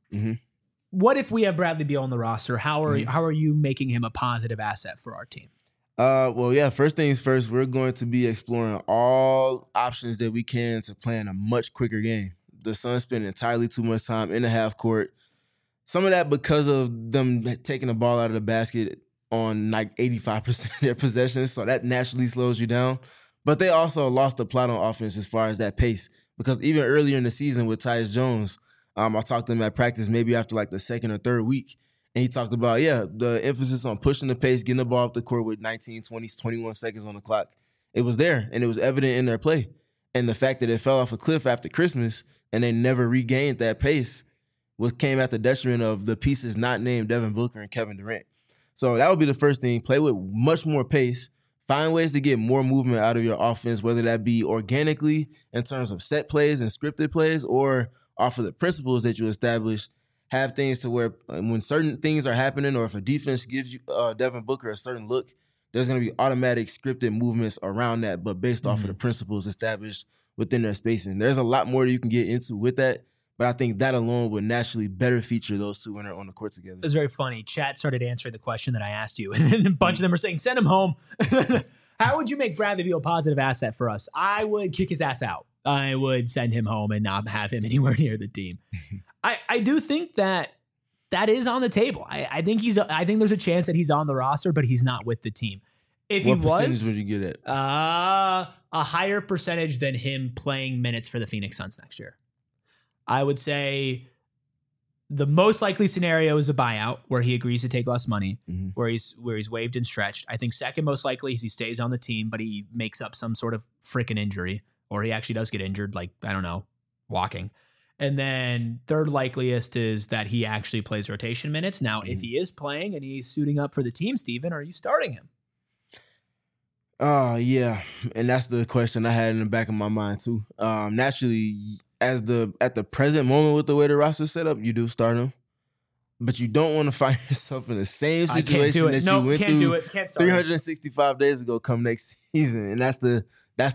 what if we have Bradley Beal on the roster? How are you making him a positive asset for our team?
Well, yeah, first things first, we're going to be exploring all options that we can to play in a much quicker game. The Suns spend entirely too much time in the half court. Some of that because of them taking the ball out of the basket on like 85% of their possessions, so that naturally slows you down. But they also lost the plot on offense as far as that pace, because even earlier in the season with Tyus Jones, I talked to him at practice maybe after like the second or third week, and he talked about, the emphasis on pushing the pace, getting the ball up the court with 19, 20, 21 seconds on the clock. It was there, and it was evident in their play. And the fact that it fell off a cliff after Christmas and they never regained that pace came at the detriment of the pieces not named Devin Booker and Kevin Durant. So that would be the first thing. Play with much more pace. Find ways to get more movement out of your offense, whether that be organically in terms of set plays and scripted plays, or off of the principles that you establish. Have things to where when certain things are happening, or if a defense gives you Devin Booker a certain look, there's going to be automatic scripted movements around that, but based off of the principles established within their spacing. There's a lot more that you can get into with that, but I think that alone would naturally better feature those two when they're on the court together.
It was very funny. Chat started answering the question that I asked you, and then a bunch of them were saying, send him home. How would you make Bradley Beal a positive asset for us? I would kick his ass out. I would send him home and not have him anywhere near the team. I do think that is on the table. I think there's a chance that he's on the roster, but he's not with the team. If
what
he was,
percentage would you get at?
A higher percentage than him playing minutes for the Phoenix Suns next year. I would say the most likely scenario is a buyout where he agrees to take less money, where he's waived and stretched. I think second most likely is he stays on the team, but he makes up some sort of freaking injury, or he actually does get injured, like, I don't know, walking. And then third likeliest is that he actually plays rotation minutes. Now, if he is playing and he's suiting up for the team, Steven, are you starting him?
Yeah. And that's the question I had in the back of my mind too. Naturally, at the present moment with the way the roster's set up, you do start him. But you don't want to find yourself in the same situation that you went through 365 days ago come next season. And that's the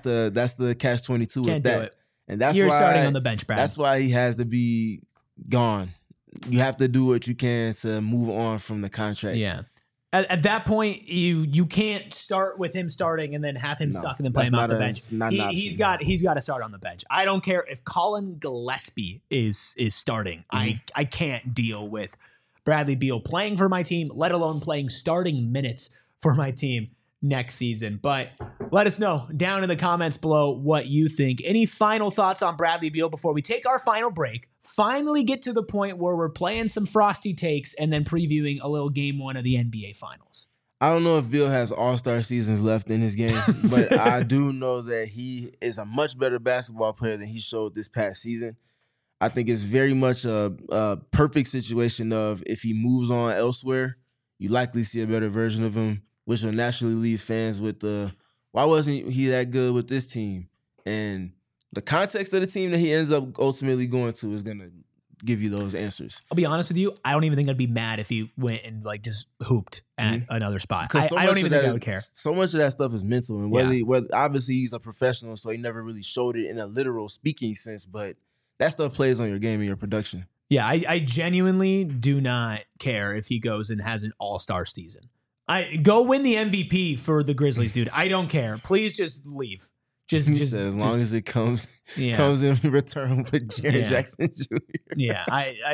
catch-22 with that. And that's
You're
why
starting on the bench, Brad.
That's why he has to be gone. You have to do what you can to move on from the contract.
Yeah. At that point, you can't start with him starting and then have him suck and then play him off the bench. He's got to start on the bench. I don't care if Colin Gillespie is starting. I can't deal with Bradley Beal playing for my team, let alone playing starting minutes for my team next season. But let us know down in the comments below what you think. Any final thoughts on Bradley Beal before we take our final break? Finally get to the point where we're playing some frosty takes and then previewing a little game one of the NBA Finals.
I don't know if Beal has all-star seasons left in his game, but I do know that he is a much better basketball player than he showed this past season. I think it's very much a perfect situation of if he moves on elsewhere, you likely see a better version of him, which will naturally leave fans with why wasn't he that good with this team? And the context of the team that he ends up ultimately going to is going to give you those answers.
I'll be honest with you. I don't even think I'd be mad if he went and like just hooped at another spot. I don't even think I would care.
So much of that stuff is mental. And whether obviously he's a professional, so he never really showed it in a literal speaking sense, but that stuff plays on your game and your production.
Yeah, I genuinely do not care if he goes and has an all-star season. I go win the MVP for the Grizzlies, dude. I don't care. Please just leave. Just
as long as it comes in return with Jaren Jackson Jr.
Yeah,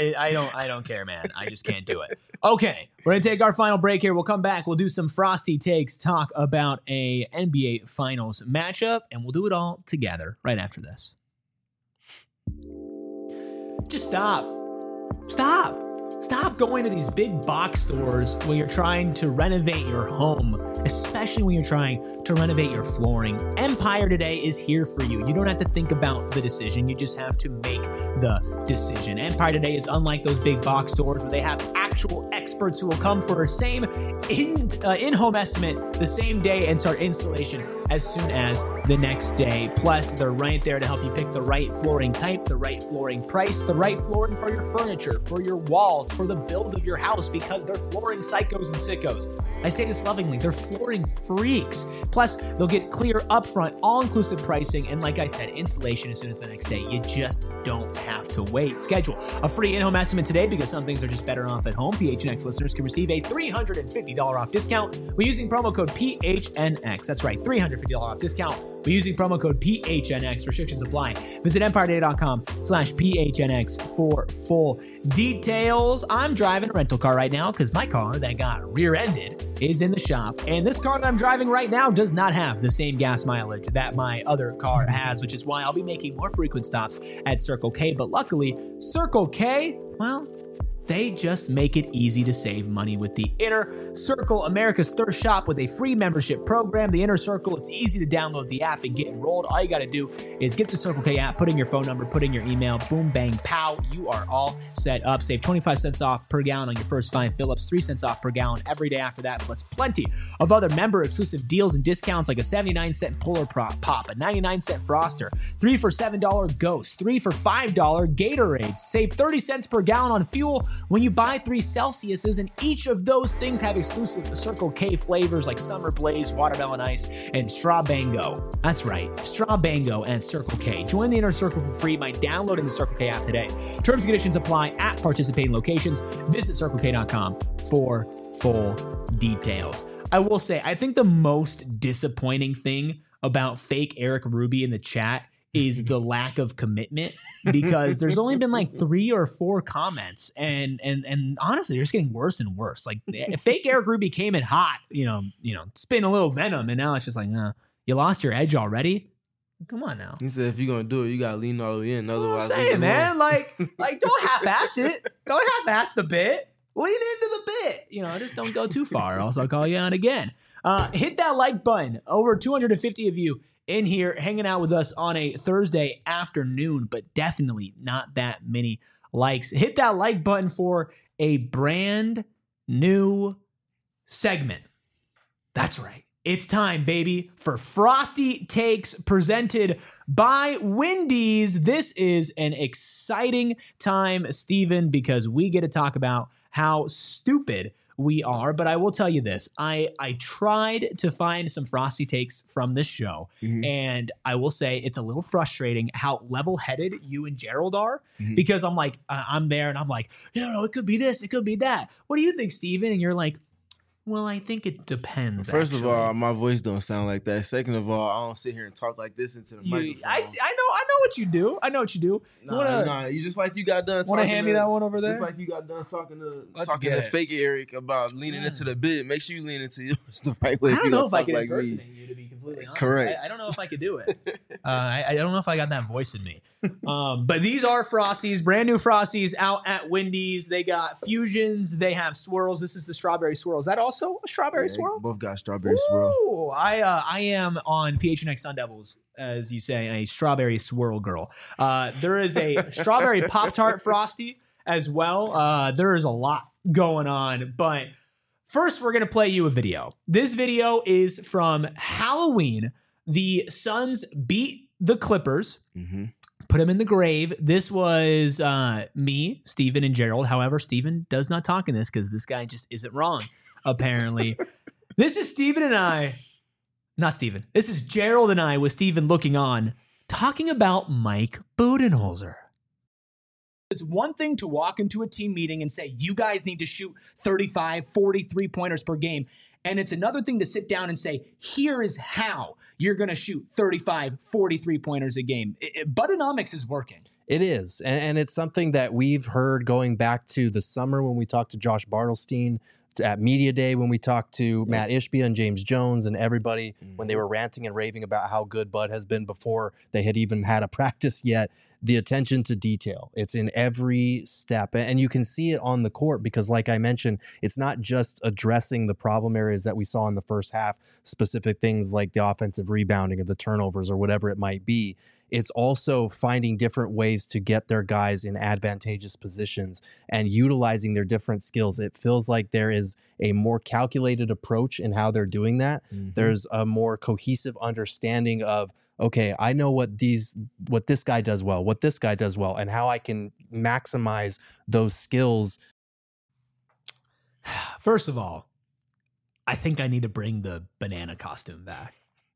I don't care, man. I just can't do it. Okay, we're gonna take our final break here. We'll come back. We'll do some frosty takes, talk about a NBA Finals matchup, and we'll do it all together right after this. Just stop going to these big box stores when you're trying to renovate your home, especially when you're trying to renovate your flooring. Empire Today is here for you. You don't have to think about the decision. You just have to make the decision. Empire Today is unlike those big box stores where they have actual experts who will come for a same in-home estimate the same day and start installation as soon as the next day. Plus, they're right there to help you pick the right flooring type, the right flooring price, the right flooring for your furniture, for your walls, for the build of your house, because they're flooring psychos and sickos. I say this lovingly, they're flooring freaks. Plus, they'll get clear upfront, all-inclusive pricing, and like I said, installation as soon as the next day. You just don't have to wait. Schedule a free in-home estimate today because some things are just better off at home. PHNX listeners can receive a $350 off discount when using promo code PHNX. That's right, $350 off discount when using promo code PHNX. Restrictions apply. Visit EmpireDay.com/PHNX for full details. I'm driving a rental car right now because my car that got rear-ended is in the shop. And this car that I'm driving right now does not have the same gas mileage that my other car has, which is why I'll be making more frequent stops at Circle K. But luckily, Circle K, well, They just make it easy to save money with the Inner Circle, America's thirst shop with a free membership program. The Inner Circle, it's easy to download the app and get enrolled. All you got to do is get the Circle K app, put in your phone number, put in your email, boom, bang, pow. You are all set up. Save 25 cents off per gallon on your first 5 fill-ups, 3 cents off per gallon every day after that, plus plenty of other member-exclusive deals and discounts like a 79-cent Polar Pop, a 99-cent Froster, 3 for $7 Ghost, 3 for $5 Gatorades. Save 30 cents per gallon on fuel when you buy 3 Celsiuses, and each of those things have exclusive Circle K flavors like Summer Blaze, Watermelon Ice, and Straw Bango. That's right, Straw Bango and Circle K. Join the Inner Circle for free by downloading the Circle K app today. Terms and conditions apply at participating locations. Visit CircleK.com for full details. I will say, I think the most disappointing thing about fake Eric Ruby in the chat is the lack of commitment, because there's only been like 3 or 4 comments, and honestly, they're just getting worse and worse. Like fake Eric Ruby came in hot, spitting a little venom, and now it's just like, you lost your edge already. Come on now.
He said if you're gonna do it, you gotta lean all the way in. Otherwise,
I'm saying, man, like don't half-ass it. Don't half-ass the bit. Lean into the bit. Just don't go too far. Also, I'll call you out again. Hit that like button. Over 250 of you in here hanging out with us on a Thursday afternoon, but definitely not that many likes. Hit that like button for a brand new segment. That's right. It's time, baby, for Frosty Takes presented by Wendy's. This is an exciting time, Steven, because we get to talk about how stupid we are. But I will tell you this. I tried to find some Frosty Takes from this show, and I will say it's a little frustrating how level-headed you and Gerald are, because I'm like, I'm there, and I'm like, it could be this, it could be that. What do you think, Steven? And you're like, well, I think it depends.
First of all, my voice don't sound like that. Second of all, I don't sit here and talk like this into the microphone.
I know what you do. I know what you do.
Nah, you just like you got done talking.
Want to hand me that one over there?
Just like you got done talking to fake Eric about leaning into the bid. Make sure you lean into yours the right way.
I don't know if I can impersonate you, to be completely honest.
Correct.
I don't know if I could do it. I don't know if I got that voice in me. But these are Frosties, brand new Frosties out at Wendy's. They got fusions. They have swirls. This is the strawberry swirl. Is that also a strawberry swirl?
Both got strawberry swirl.
I am on PHNX Sun Devils, as you say, a strawberry swirl girl. There is a strawberry Pop-Tart Frosty as well. There is a lot going on, but first we're going to play you a video. This video is from Halloween. The Suns beat the Clippers. Put them in the grave. This was me, Steven, and Gerald. However, Steven does not talk in this because this guy just isn't wrong, apparently. This is Steven and I. Not Steven. This is Gerald and I with Steven looking on, talking about Mike Budenholzer. It's one thing to walk into a team meeting and say, you guys need to shoot 35, 40 3-pointers per game. And it's another thing to sit down and say, here is how you're going to shoot 35, 40 3-pointers a game. Budenomics is working.
It is. And it's something that we've heard going back to the summer when we talked to Josh Bartelstein, at Media Day when we talked to Matt Ishbia and James Jones and everybody when they were ranting and raving about how good Bud has been before they had even had a practice yet. The attention to detail, it's in every step. And you can see it on the court because, like I mentioned, it's not just addressing the problem areas that we saw in the first half, specific things like the offensive rebounding or the turnovers or whatever it might be. It's also finding different ways to get their guys in advantageous positions and utilizing their different skills. It feels like there is a more calculated approach in how they're doing that. There's a more cohesive understanding of, okay, I know what this guy does well, what this guy does well, and how I can maximize those skills.
First of all, I think I need to bring the banana costume back.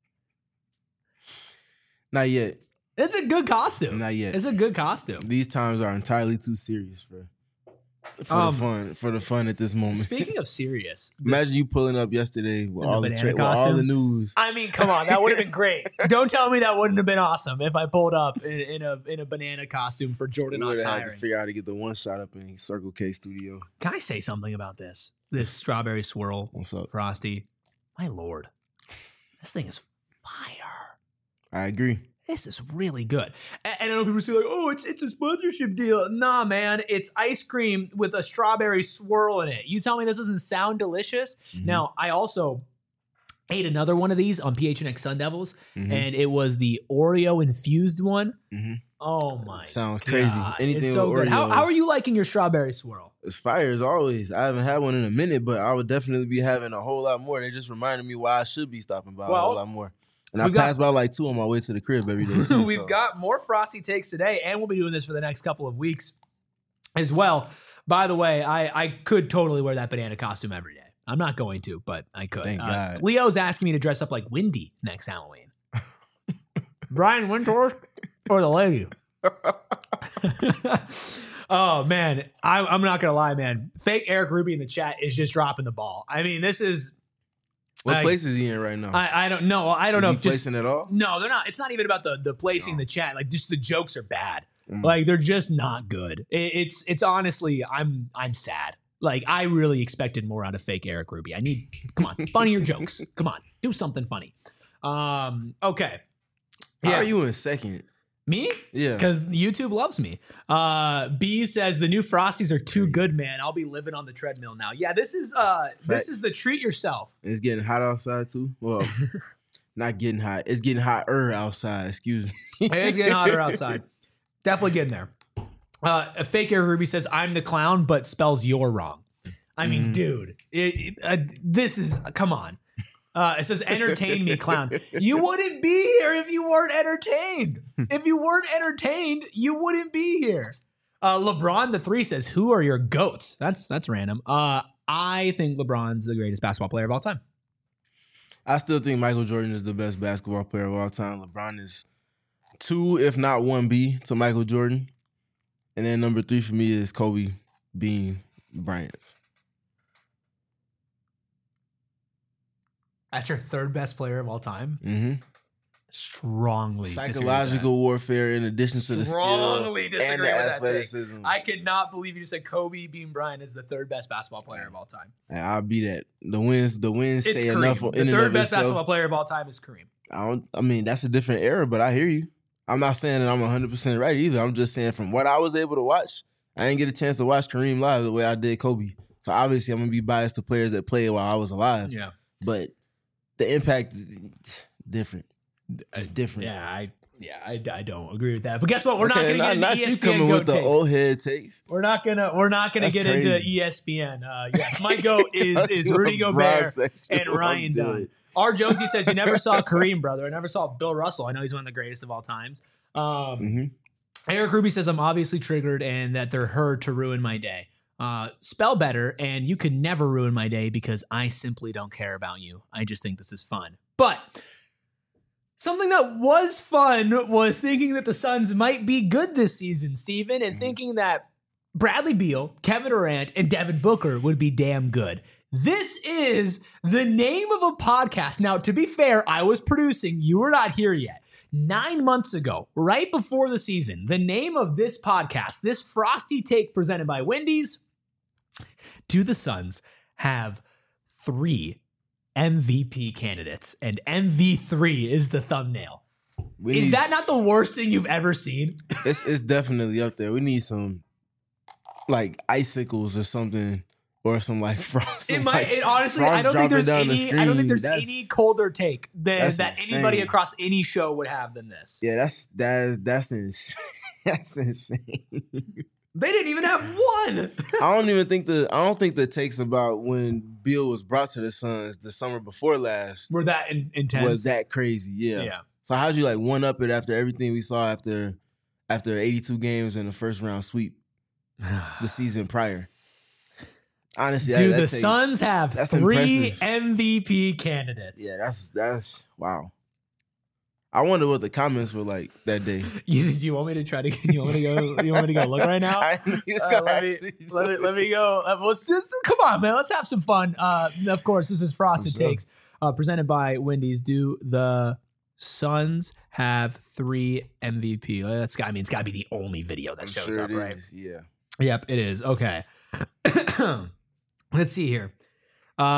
Not yet.
It's a good costume.
Not yet.
It's a good costume.
These times are entirely too serious for the fun at this moment.
Speaking of serious,
imagine you pulling up yesterday with all the news.
I mean, come on, that would have been great. Don't tell me that wouldn't have been awesome if I pulled up in a banana costume for Jordan Knox hiring.
Had to figure out how to get the one shot up in Circle K studio.
Can I say something about this? This strawberry swirl,
what's up,
Frosty? My lord, this thing is fire.
I agree.
this is really good. And I know people say like, oh, it's a sponsorship deal. Nah, man, it's ice cream with a strawberry swirl in it. You tell me this doesn't sound delicious?
Mhm.
Now, I also ate another one of these on PHNX Sun Devils, and it was the Oreo infused one.
Mhm.
Oh my
Sounds
God.
crazy. Anything
It's so
with
good. How
Oreos.
are you liking your strawberry swirl?
It's fire as always. I haven't had one in a minute, but I would definitely be having a whole lot more. They just reminded me why I should be stopping by a whole lot more. And I pass by like 2 on my way to the crib every day too.
We've got more Frosty takes today, and we'll be doing this for the next couple of weeks as well. By the way, I could totally wear that banana costume every day. I'm not going to, but I could.
Thank God.
Leo's asking me to dress up like Wendy next Halloween. Brian Windhorst or the lady? Oh, man. I'm not going to lie, man. Fake Eric Ruby in the chat is just dropping the ball. I mean, this is...
What place is he in right now?
I don't know. I don't
is
know
he
if just...
placing at all?
No, they're not. It's not even about the placing the chat. Like, just the jokes are bad. Like, they're just not good. It's honestly, I'm sad. Like, I really expected more out of fake Eric Ruby. Come on, funnier jokes. Come on, do something funny. Okay.
How are you in second?
Me?
Yeah.
Because YouTube loves me. B says the new Frosties are too good, man. I'll be living on the treadmill now. Yeah, this is the treat yourself.
It's getting hot outside too. Well, not getting hot. It's getting hotter outside. Excuse me.
It's getting hotter outside. Definitely getting there. A fake Eric Ruby says, I'm the clown, but spells you're wrong. I mean, dude, this is, come on. It says, entertain me, clown. You wouldn't be here if you weren't entertained. If you weren't entertained, you wouldn't be here. LeBron the 3 says, who are your GOATs? That's random. I think LeBron's the greatest basketball player of all time.
I still think Michael Jordan is the best basketball player of all time. LeBron is 2, if not 1B to Michael Jordan. And then number 3 for me is Kobe Bean Bryant.
That's your third best player of all time?
Mm-hmm.
Strongly
psychological warfare in addition to the skill
disagree
and the
with
athleticism.
that take. I could not believe you just said Kobe Bean Bryant is the third best basketball player of all time.
And I'll be that. The wins
It's
say
Kareem.
enough.
The third best basketball player of all time is Kareem.
I mean, that's a different era, but I hear you. I'm not saying that I'm 100% right either. I'm just saying from what I was able to watch, I didn't get a chance to watch Kareem live the way I did Kobe. So obviously I'm going to be biased to players that played while I was alive.
Yeah.
But the impact is different. It's different.
I don't agree with that. But guess what? We're not going to get into
not
ESPN
you coming
GOAT
with the
takes.
old head takes.
We're not gonna get into ESPN. Yes, my GOAT is Rudy Gobert and Ryan Dunn. R. Jonesy says, you never saw Kareem, brother. I never saw Bill Russell. I know he's one of the greatest of all times. Eric Ruby says, I'm obviously triggered and that they're her to ruin my day. Spell better, and you can never ruin my day because I simply don't care about you. I just think this is fun. But something that was fun was thinking that the Suns might be good this season, Steven, and thinking that Bradley Beal, Kevin Durant, and Devin Booker would be damn good. This is the name of a podcast. Now, to be fair, I was producing. You were not here yet. 9 months ago, right before the season, the name of this podcast, this Frosty Take presented by Wendy's, do the Suns have 3 MVP candidates? And MV3 is the thumbnail. Is that not the worst thing you've ever seen?
It's definitely up there. We need some like icicles or something. Or some like frost.
Honestly, I don't think there's
That's
any colder take that
insane.
anybody across any show would have than this.
Yeah, that's insane. That's insane.
They didn't even have one.
I don't think the takes about when Beal was brought to the Suns the summer before last
were that intense.
Was that crazy? Yeah. So how'd you like one up it after everything we saw after 82 games in the first round sweep the season prior? Honestly,
dude, the Suns have 3
impressive.
MVP candidates.
Yeah, that's wow. I wonder what the comments were like that day.
You want me to try to? You want me to go look right now? Let me go. Let's just come on, man. Let's have some fun. Of course, this is Frosted Takes, presented by Wendy's. Do the Suns have 3 MVP? It's got to be the only video that shows up, right?
Yeah.
Yep, it is. Okay. Let's see here.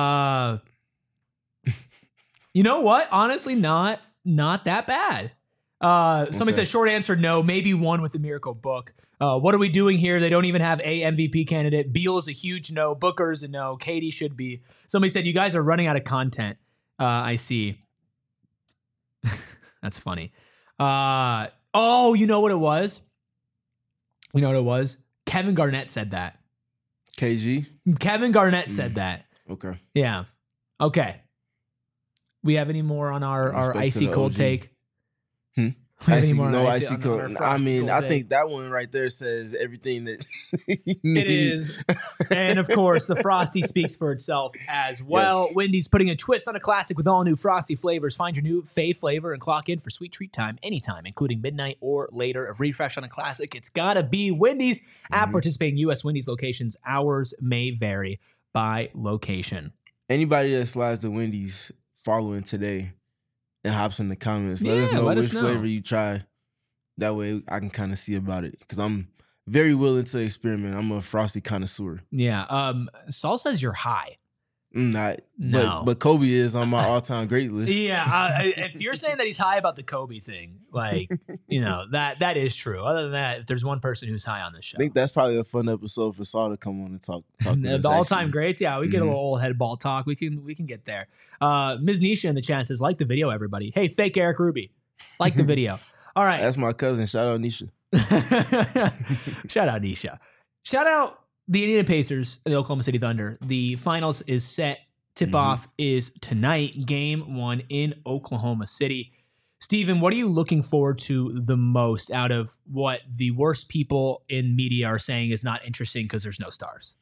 You know what? Honestly, not that bad. Somebody said short answer, no, maybe one with the Miracle Book. What are we doing here? They don't even have a MVP candidate. Beal is a huge no. Booker's a no. Katie should be. Somebody said you guys are running out of content. I see. That's funny. Oh, you know what it was? You know what it was? Kevin Garnett said that.
KG?
Kevin Garnett said that.
Okay.
Yeah. Okay. We have any more on our
Respect to
icy
the
cold
OG.
take?
Hmm?
We have any
Icy,
more on
no
icy
icy
on
cold.
our
I
frosty
mean,
cold
I
take?
think that one right there says everything that you
It
need.
is. And of course, the Frosty speaks for itself as well.
Yes.
Wendy's putting a twist on a classic with all new Frosty flavors. Find your new fave flavor and clock in for sweet treat time anytime, including midnight or later. A refresh on a classic, it's gotta be Wendy's. At participating U.S. Wendy's locations, hours may vary by location.
Anybody that slides the Wendy's following today and hops in the comments, let us
Yeah,
know
let us
which
know.
flavor you try. That way I can kind of see about it because I'm very willing to experiment. I'm a Frosty connoisseur.
Yeah. Saul says you're high.
I'm not.
No.
But Kobe is on my all-time great list.
Yeah, if you're saying that he's high about the Kobe thing, like, that is true. Other than that, if there's one person who's high on this show,
I think that's probably a fun episode for Saul to come on and talk with
the
us,
all-time
actually.
greats. Yeah, we get a little old head ball talk. We can get there. Ms. Nisha in the chat says, like the video, everybody. Hey, fake Eric Ruby, like the video. All right.
That's my cousin. Shout out Nisha.
Shout out Nisha. Shout out the Indiana Pacers and the Oklahoma City Thunder. The finals is set. Tip-off is tonight, game 1 in Oklahoma City. Steven, what are you looking forward to the most out of what the worst people in media are saying is not interesting because there's no stars?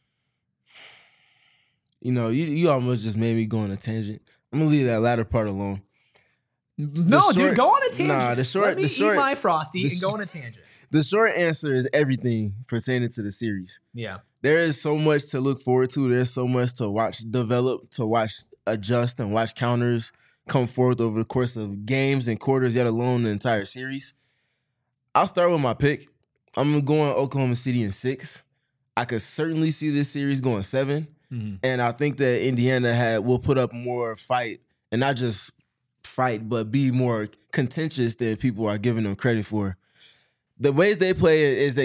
You almost just made me go on a tangent. I'm going to leave that latter part alone.
No, dude, go on a tangent.
Nah,
Let me eat my Frosty and go on a tangent.
The short answer is everything pertaining to the series.
Yeah.
There is so much to look forward to. There's so much to watch develop, to watch adjust, and watch counters come forth over the course of games and quarters, yet alone the entire series. I'll start with my pick. I'm going Oklahoma City in 6. I could certainly see this series going 7. And I think that Indiana will put up more fight, and not just fight, but be more contentious than people are giving them credit for. The ways they play is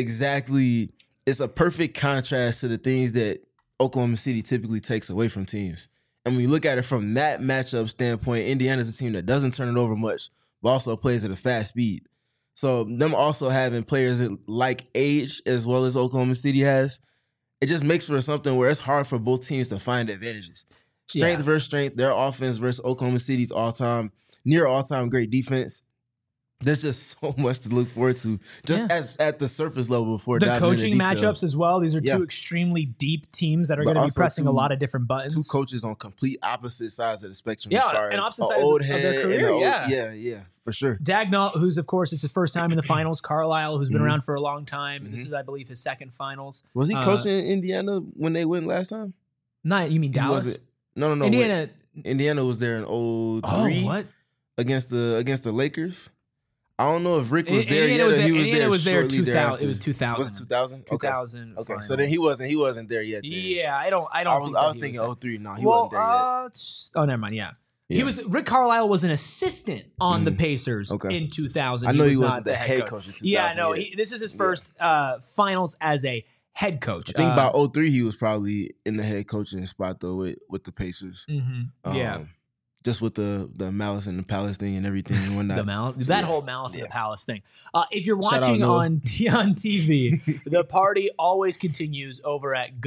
it's a perfect contrast to the things that Oklahoma City typically takes away from teams. And when you look at it from that matchup standpoint, Indiana's a team that doesn't turn it over much, but also plays at a fast speed. So them also having players that like age as well as Oklahoma City has, it just makes for something where it's hard for both teams to find advantages. Strength versus strength, their offense versus Oklahoma City's near all-time great defense. There's just so much to look forward to just at the surface level before
the
diving
coaching
into detail.
matchups as well. These are two extremely deep teams that are going to be
also
pressing a lot of different buttons.
2 coaches on complete opposite sides of the spectrum.
Yeah,
as far
and
as
opposite
an
sides
old
of
head
their career,
and
yeah.
yeah, for sure.
Dagnall, who's of course it's his first time in the finals. Carlisle, who's been around for a long time. This is, I believe, his second finals.
Was he coaching in Indiana when they went last time?
Not you mean Dallas?
He wasn't. No.
Indiana.
Indiana was there in 03
Oh, what?
against the Lakers. I don't know if Rick was there
Indiana
yet, or he was
Indiana
there
was there
shortly
2000.
thereafter.
It was 2000.
Was it 2000?
2000.
Okay,
final.
so then he wasn't there yet. Then.
Yeah, I don't.
I
think
was
that
thinking
he was
03. No, he wasn't there yet.
Oh, never mind. Yeah.
Yeah.
Rick Carlisle was an assistant on the Pacers in 2000.
I know he
was
wasn't
not
the head coach in 2000.
Yeah, no,
yet.
this is his first finals as a head coach.
I think about 03 he was probably in the head coaching spot though with the Pacers.
Yeah.
Just with the Malice in the Palace thing and everything and whatnot.
Whole Malice in the Palace thing. If you're
Shout out
watching
Noah.
on TV, the party always continues over at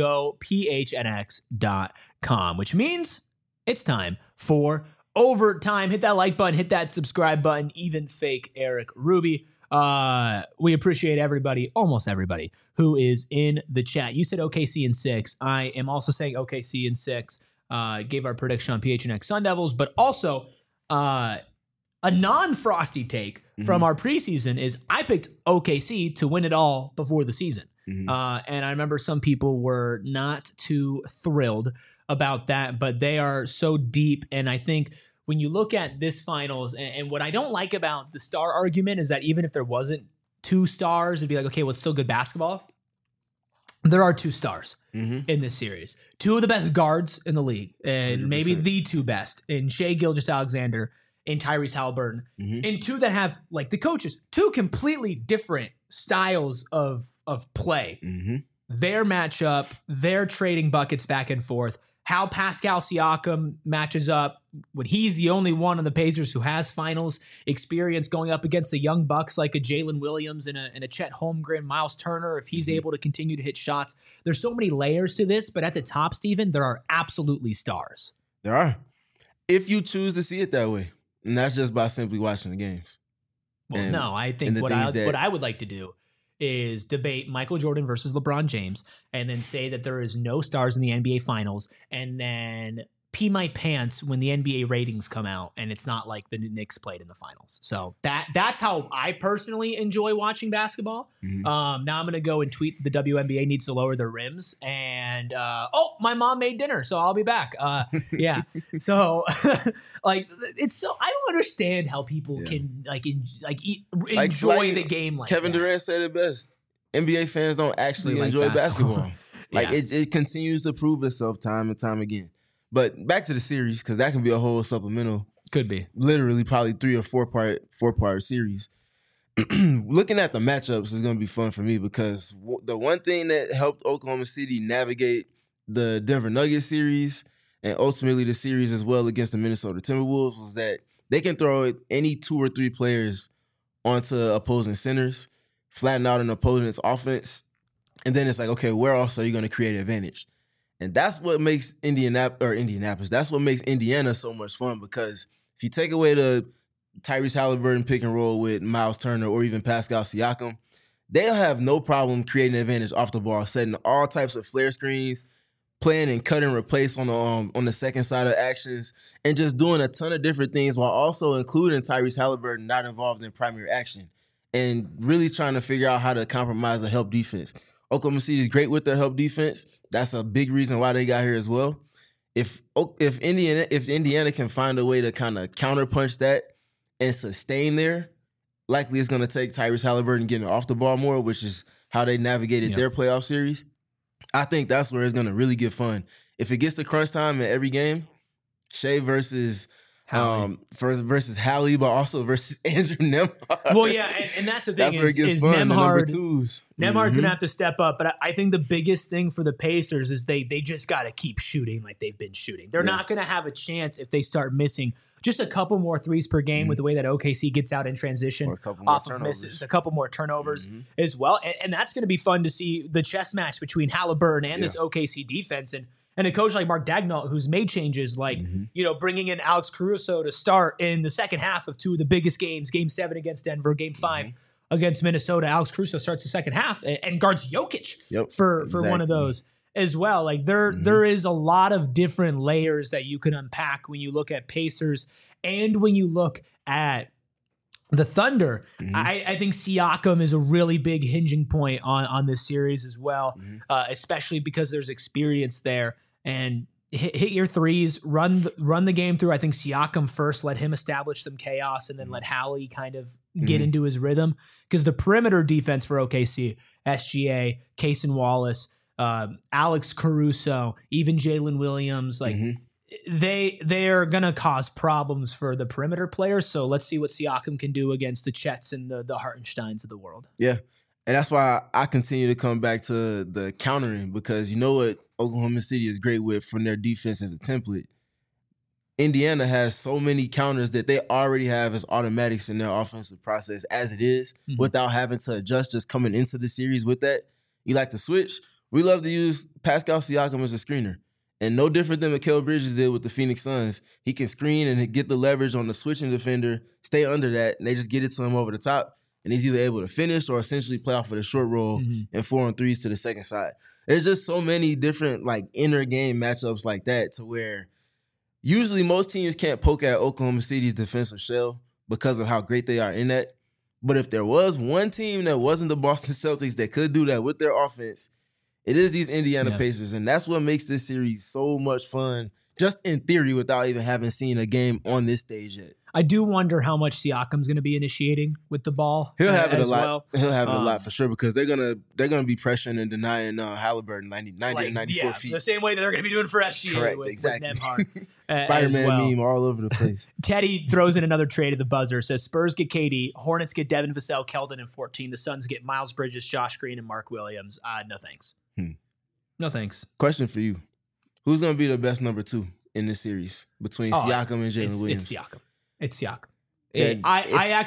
gophnx.com, which means it's time for overtime. Hit that like button, hit that subscribe button, even fake Eric Ruby. We appreciate everybody, almost everybody, who is in the chat. You said OKC in 6. I am also saying OKC in 6. Gave our prediction on PHNX Sun Devils, but also a non-frosty take from our preseason is I picked OKC to win it all before the season. And I remember some people were not too thrilled about that, but they are so deep. And I think when you look at this finals, and what I don't like about the star argument is that even if there wasn't 2 stars, it'd be like, okay, well, it's still good basketball. There are 2 stars in this series. 2 of the best guards in the league, and
100%.
maybe the 2 best in Shai Gilgeous-Alexander in Tyrese Halliburton,
Mhm.
and two that have, like the coaches, two completely different styles of play.
Mhm.
Their matchup, their trading buckets back and forth, how Pascal Siakam matches up when he's the only one on the Pacers who has finals experience going up against the young Bucks like a Jalen Williams and a Chet Holmgren, Miles Turner, if he's able to continue to hit shots. There's so many layers to this, but at the top, Steven, there are absolutely stars.
There are. If you choose to see it that way. And that's just by simply watching the games.
Well,
And-
no, I
and
think
the
what
things that-
I would like to do is debate Michael Jordan versus LeBron James and then say that there is no stars in the NBA finals and then pee my pants when the NBA ratings come out and it's not like the Knicks played in the finals. So that's how I personally enjoy watching basketball.
Mhm.
Now I'm going to go and tweet that the WNBA needs to lower their rims and my mom made dinner, so I'll be back. Yeah. So like it's so I don't understand how people
Yeah.
can
Like
enjoy the game like
Kevin
that.
Durant said it best. NBA fans don't actually
They like
enjoy
basketball.
basketball. Like
Yeah.
it continues to prove itself time and time again. But back to the series, because that can be a whole supplemental,
Could be.
literally probably 3 or 4-part series. Looking at the matchups is going to be fun for me because the one thing that helped Oklahoma City navigate the Denver Nuggets series and ultimately the series as well against the Minnesota Timberwolves was that they can throw any 2 or 3 players onto opposing centers, flatten out an opponent's offense, and then it's like, okay, where else are you going to create advantage? And that's what makes Indianapolis. That's what makes Indiana so much fun because if you take away the Tyrese Halliburton pick and roll with Miles Turner or even Pascal Siakam, they'll have no problem creating advantage off the ball, setting all types of flare screens, playing and cut and replace on the second side of actions, and just doing a ton of different things while also including Tyrese Halliburton not involved in primary action and really trying to figure out how to compromise the help defense. Oklahoma City is great with their help defense. That's a big reason why they got here as well. If Indiana can find a way to kind of counterpunch that and sustain there, likely it's going to take Tyrese Halliburton getting off the ball more, which is how they navigated their playoff series. I think that's where it's going to really get fun. If it gets to crunch time in every game, Shea versus versus Hallie, but also versus Andrew Nembhard.
Well, yeah, and that's the thing.
That's where it gets fun. The number twos.
Nembhard's gonna have to step up, but I think the biggest thing for the Pacers is they just got to keep shooting like they've been shooting. They're not gonna have a chance if they start missing just a couple more threes per game with the way that OKC gets out in transition
Or a couple more
off of
turnovers.
misses, a couple more turnovers as well, and that's gonna be fun to see the chess match between Halliburton and this OKC defense and a coach like Mark Daigneault, who's made changes like, bringing in Alex Caruso to start in the second half of 2 of the biggest games, Game 7 against Denver, Game 5 against Minnesota. Alex Caruso starts the second half and guards Jokic for one of those as well. Like there is a lot of different layers that you can unpack when you look at Pacers and when you look at the Thunder. I think Siakam is a really big hinging point on this series as well, especially because there's experience there. And hit your threes, run the game through. I think Siakam first, let him establish some chaos, and then let Hallie kind of get into his rhythm. Because the perimeter defense for OKC, SGA, Cason Wallace, Alex Caruso, even Jalen Williams, like they are gonna cause problems for the perimeter players. So let's see what Siakam can do against the Chets and the Hartensteins of the world.
Yeah. And that's why I continue to come back to the countering, because you know what Oklahoma City is great with from their defense as a template. Indiana has so many counters that they already have as automatics in their offensive process as it is, without having to adjust just coming into the series with that. You like to switch. We love to use Pascal Siakam as a screener. And no different than Mikal Bridges did with the Phoenix Suns. He can screen and get the leverage on the switching defender, stay under that, and they just get it to him over the top. And he's either able to finish or essentially play off of the short roll and 4-on-3s to the second side. There's just so many different like inner game matchups like that to where usually most teams can't poke at Oklahoma City's defensive shell because of how great they are in that. But if there was one team that wasn't the Boston Celtics that could do that with their offense, it is these Indiana Pacers. And that's what makes this series so much fun just in theory, without even having seen a game on this stage yet.
I do wonder how much Siakam's going to be initiating with the ball.
He'll have it a lot.
Well.
He'll have it a lot for sure because they're gonna be pressuring and denying Halliburton 90 to 94 feet.
The same way that they're going to be doing for SGA.
Correct,
with
exactly.
Nembhard.
Spider-Man meme all over the place.
Teddy throws in another trade at the buzzer. Says Spurs get KD, Hornets get Devin Vassell, Keldon, and 14. The Suns get Miles Bridges, Josh Green, and Mark Williams. No thanks. No thanks.
Question for you: who's gonna be the best number 2 in this series between Siakam and Jalen Williams?
It's Siakam.
And
I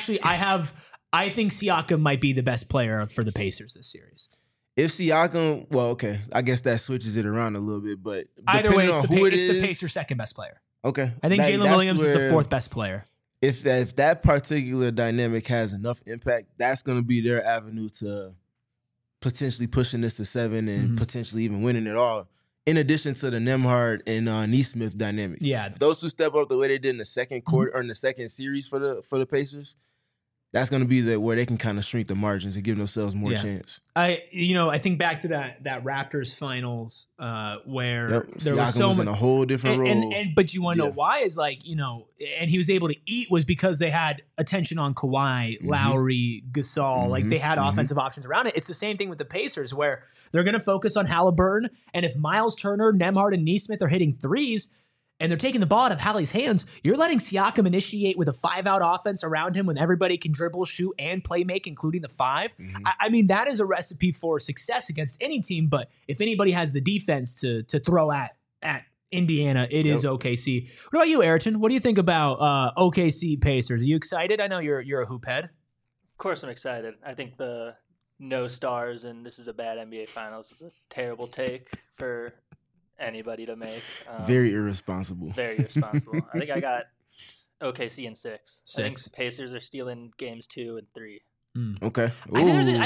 think Siakam might be the best player for the Pacers this series.
If Siakam, well, okay, I guess that switches it around a little bit, but
either way,
it's
the Pacers' second best player.
Okay,
I think Jalen Williams is the fourth best player.
If that particular dynamic has enough impact, that's going to be their avenue to potentially pushing this to 7 and potentially even winning it all. In addition to the Nembhard and Nesmith dynamic, if those two step up the way they did in the second quarter or in the second series for the Pacers, that's going to be where they can kind of shrink the margins and give themselves more chance.
I think back to that Raptors finals where there
Siakam
was so
was
much
in a whole different role.
But you want to know why is and he was able to eat was because they had attention on Kawhi, Lowry, Gasol. Like they had offensive options around it. It's the same thing with the Pacers where they're going to focus on Halliburton. And if Miles Turner, Nembhard, and Nesmith are hitting threes, and they're taking the ball out of Hallie's hands, you're letting Siakam initiate with a 5-out offense around him when everybody can dribble, shoot, and play make, including the 5. I mean, that is a recipe for success against any team, but if anybody has the defense to throw at Indiana, it is OKC. What about you, Ayrton? What do you think about OKC Pacers? Are you excited? I know you're a hoop head.
Of course I'm excited. I think the no stars and this is a bad NBA Finals is a terrible take for anybody to make.
Very irresponsible.
Very irresponsible. I think I got OKC in 6.
6.
I think Pacers are stealing games 2 and 3.
Okay.
I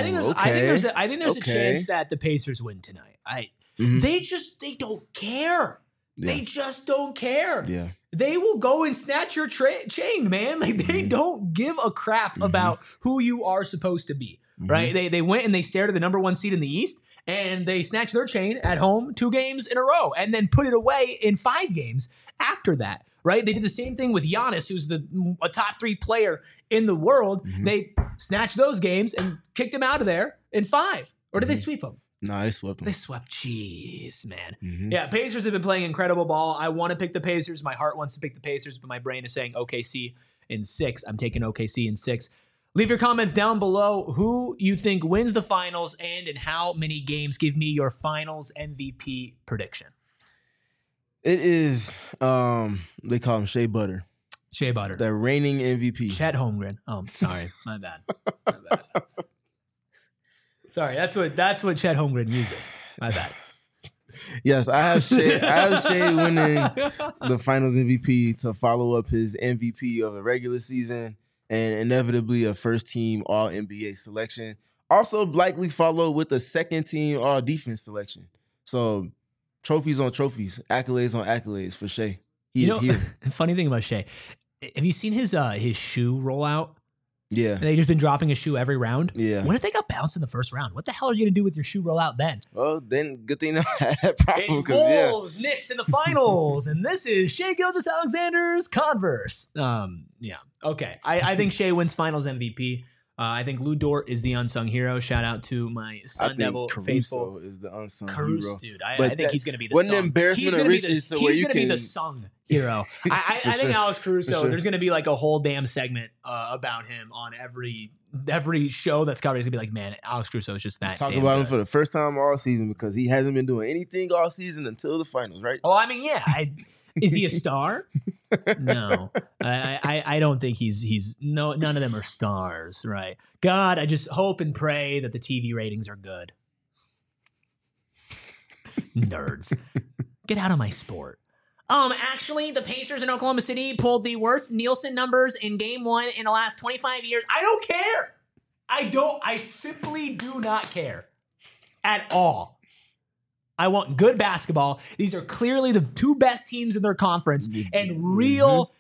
think there's a chance that the Pacers win tonight. They don't care.
Yeah.
They just don't care.
Yeah.
They will go and snatch your chain, man. Like they don't give a crap about who you are supposed to be. Right? They went and they stared at the number 1 seed in the East and they snatched their chain at home 2 games in a row and then put it away in 5 games after that. Right? They did the same thing with Giannis, who's a top 3 player in the world. They snatched those games and kicked him out of there in 5. Or did they sweep him?
No, they swept them.
They swept. Jeez, man. Yeah, Pacers have been playing incredible ball. I want to pick the Pacers. My heart wants to pick the Pacers, but my brain is saying OKC in 6. I'm taking OKC in 6. Leave your comments down below who you think wins the finals and in how many games. Give me your finals MVP prediction.
It is, they call him Shea Butter.
Shea Butter.
The reigning MVP.
Chet Holmgren. Oh, sorry. My bad. Sorry, that's what Chet Holmgren uses. My bad.
Yes, I have Shea winning the finals MVP to follow up his MVP of the regular season and inevitably a first-team All-NBA selection. Also likely follow with a second-team All-Defense selection. So trophies on trophies, accolades on accolades for Shea. He is here.
Funny thing about Shea, have you seen his shoe rollout?
Yeah.
And they've just been dropping his shoe every round.
Yeah.
What if they got bounced in the first round? What the hell are you going to do with your shoe rollout then?
Well, then good thing I had that problem.
It's Wolves, Knicks in the finals. And this is Shea Gilgeous-Alexander's Converse. Yeah. Okay. I think Shea wins finals MVP. I think Lou Dort is the unsung hero. Shout out to my Sun Devil faithful.
Caruso is the unsung
hero.
Dude.
I think he's going to be the
wasn't
sung.
An embarrassment of riches.
He's going to be the sung hero. I think Alex Caruso,
sure.
There's going to be like a whole damn segment about him on every show that's covered. He's going to be like, man, Alex Caruso is just that.
Talk about him for the first time all season because he hasn't been doing anything all season until the finals, right?
Oh, I mean, yeah. Is he a star? No, I don't think he's none of them are stars, right? God, I just hope and pray that the TV ratings are good. Nerds, get out of my sport. Actually, the Pacers in Oklahoma City pulled the worst Nielsen numbers in Game 1 in the last 25 years. I don't care. I simply do not care at all. I want good basketball. These are clearly the 2 best teams in their conference, and real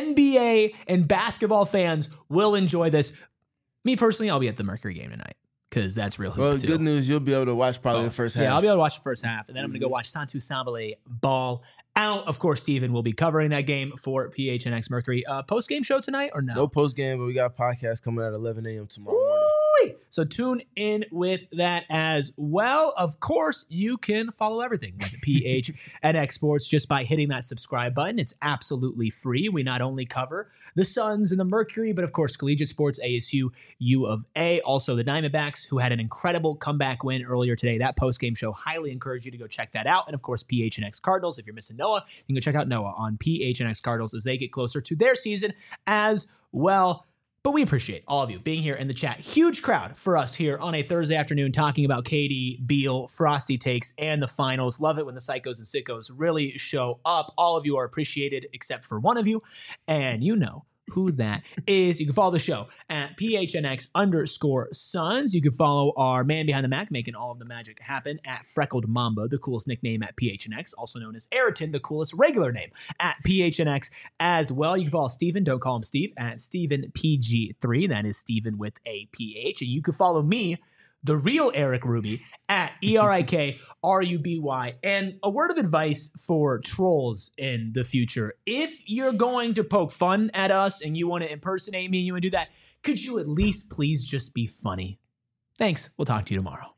NBA and basketball fans will enjoy this. Me personally, I'll be at the Mercury game tonight because that's real hoop
Well,
too.
good news, you'll be able to watch probably the first half.
Yeah, I'll be able to watch the first half, and then I'm going to go watch Santu Sabale ball out. Of course, Steven will be covering that game for PHNX Mercury. Post-game show tonight or no?
No post game, but we got a podcast coming at 11 a.m. tomorrow morning.
Woo-wee. So tune in with that as well. Of course, you can follow everything with PHNX Sports just by hitting that subscribe button. It's absolutely free. We not only cover the Suns and the Mercury, but of course, collegiate sports, ASU, U of A, also the Diamondbacks, who had an incredible comeback win earlier today. That post-game show, highly encourage you to go check that out. And of course, PHNX Cardinals. If you're missing Noah, you can go check out Noah on PHNX Cardinals as they get closer to their season as well. But we appreciate all of you being here in the chat. Huge crowd for us here on a Thursday afternoon talking about KD, Beal, Frosty takes, and the finals. Love it when the psychos and sickos really show up. All of you are appreciated except for one of you, and you know who that is. You can follow the show at PHNX_Suns. You can follow our man behind the Mac making all of the magic happen at Freckled Mamba, the coolest nickname at PHNX, also known as Ayrton, the coolest regular name at PHNX as well. You can follow Steven, don't call him Steve, at StevenPG3. That is Steven with a PH. And you can follow me, the real Eric Ruby, at ERIKRUBY. And a word of advice for trolls in the future. If you're going to poke fun at us and you want to impersonate me and you want to do that, could you at least please just be funny? Thanks. We'll talk to you tomorrow.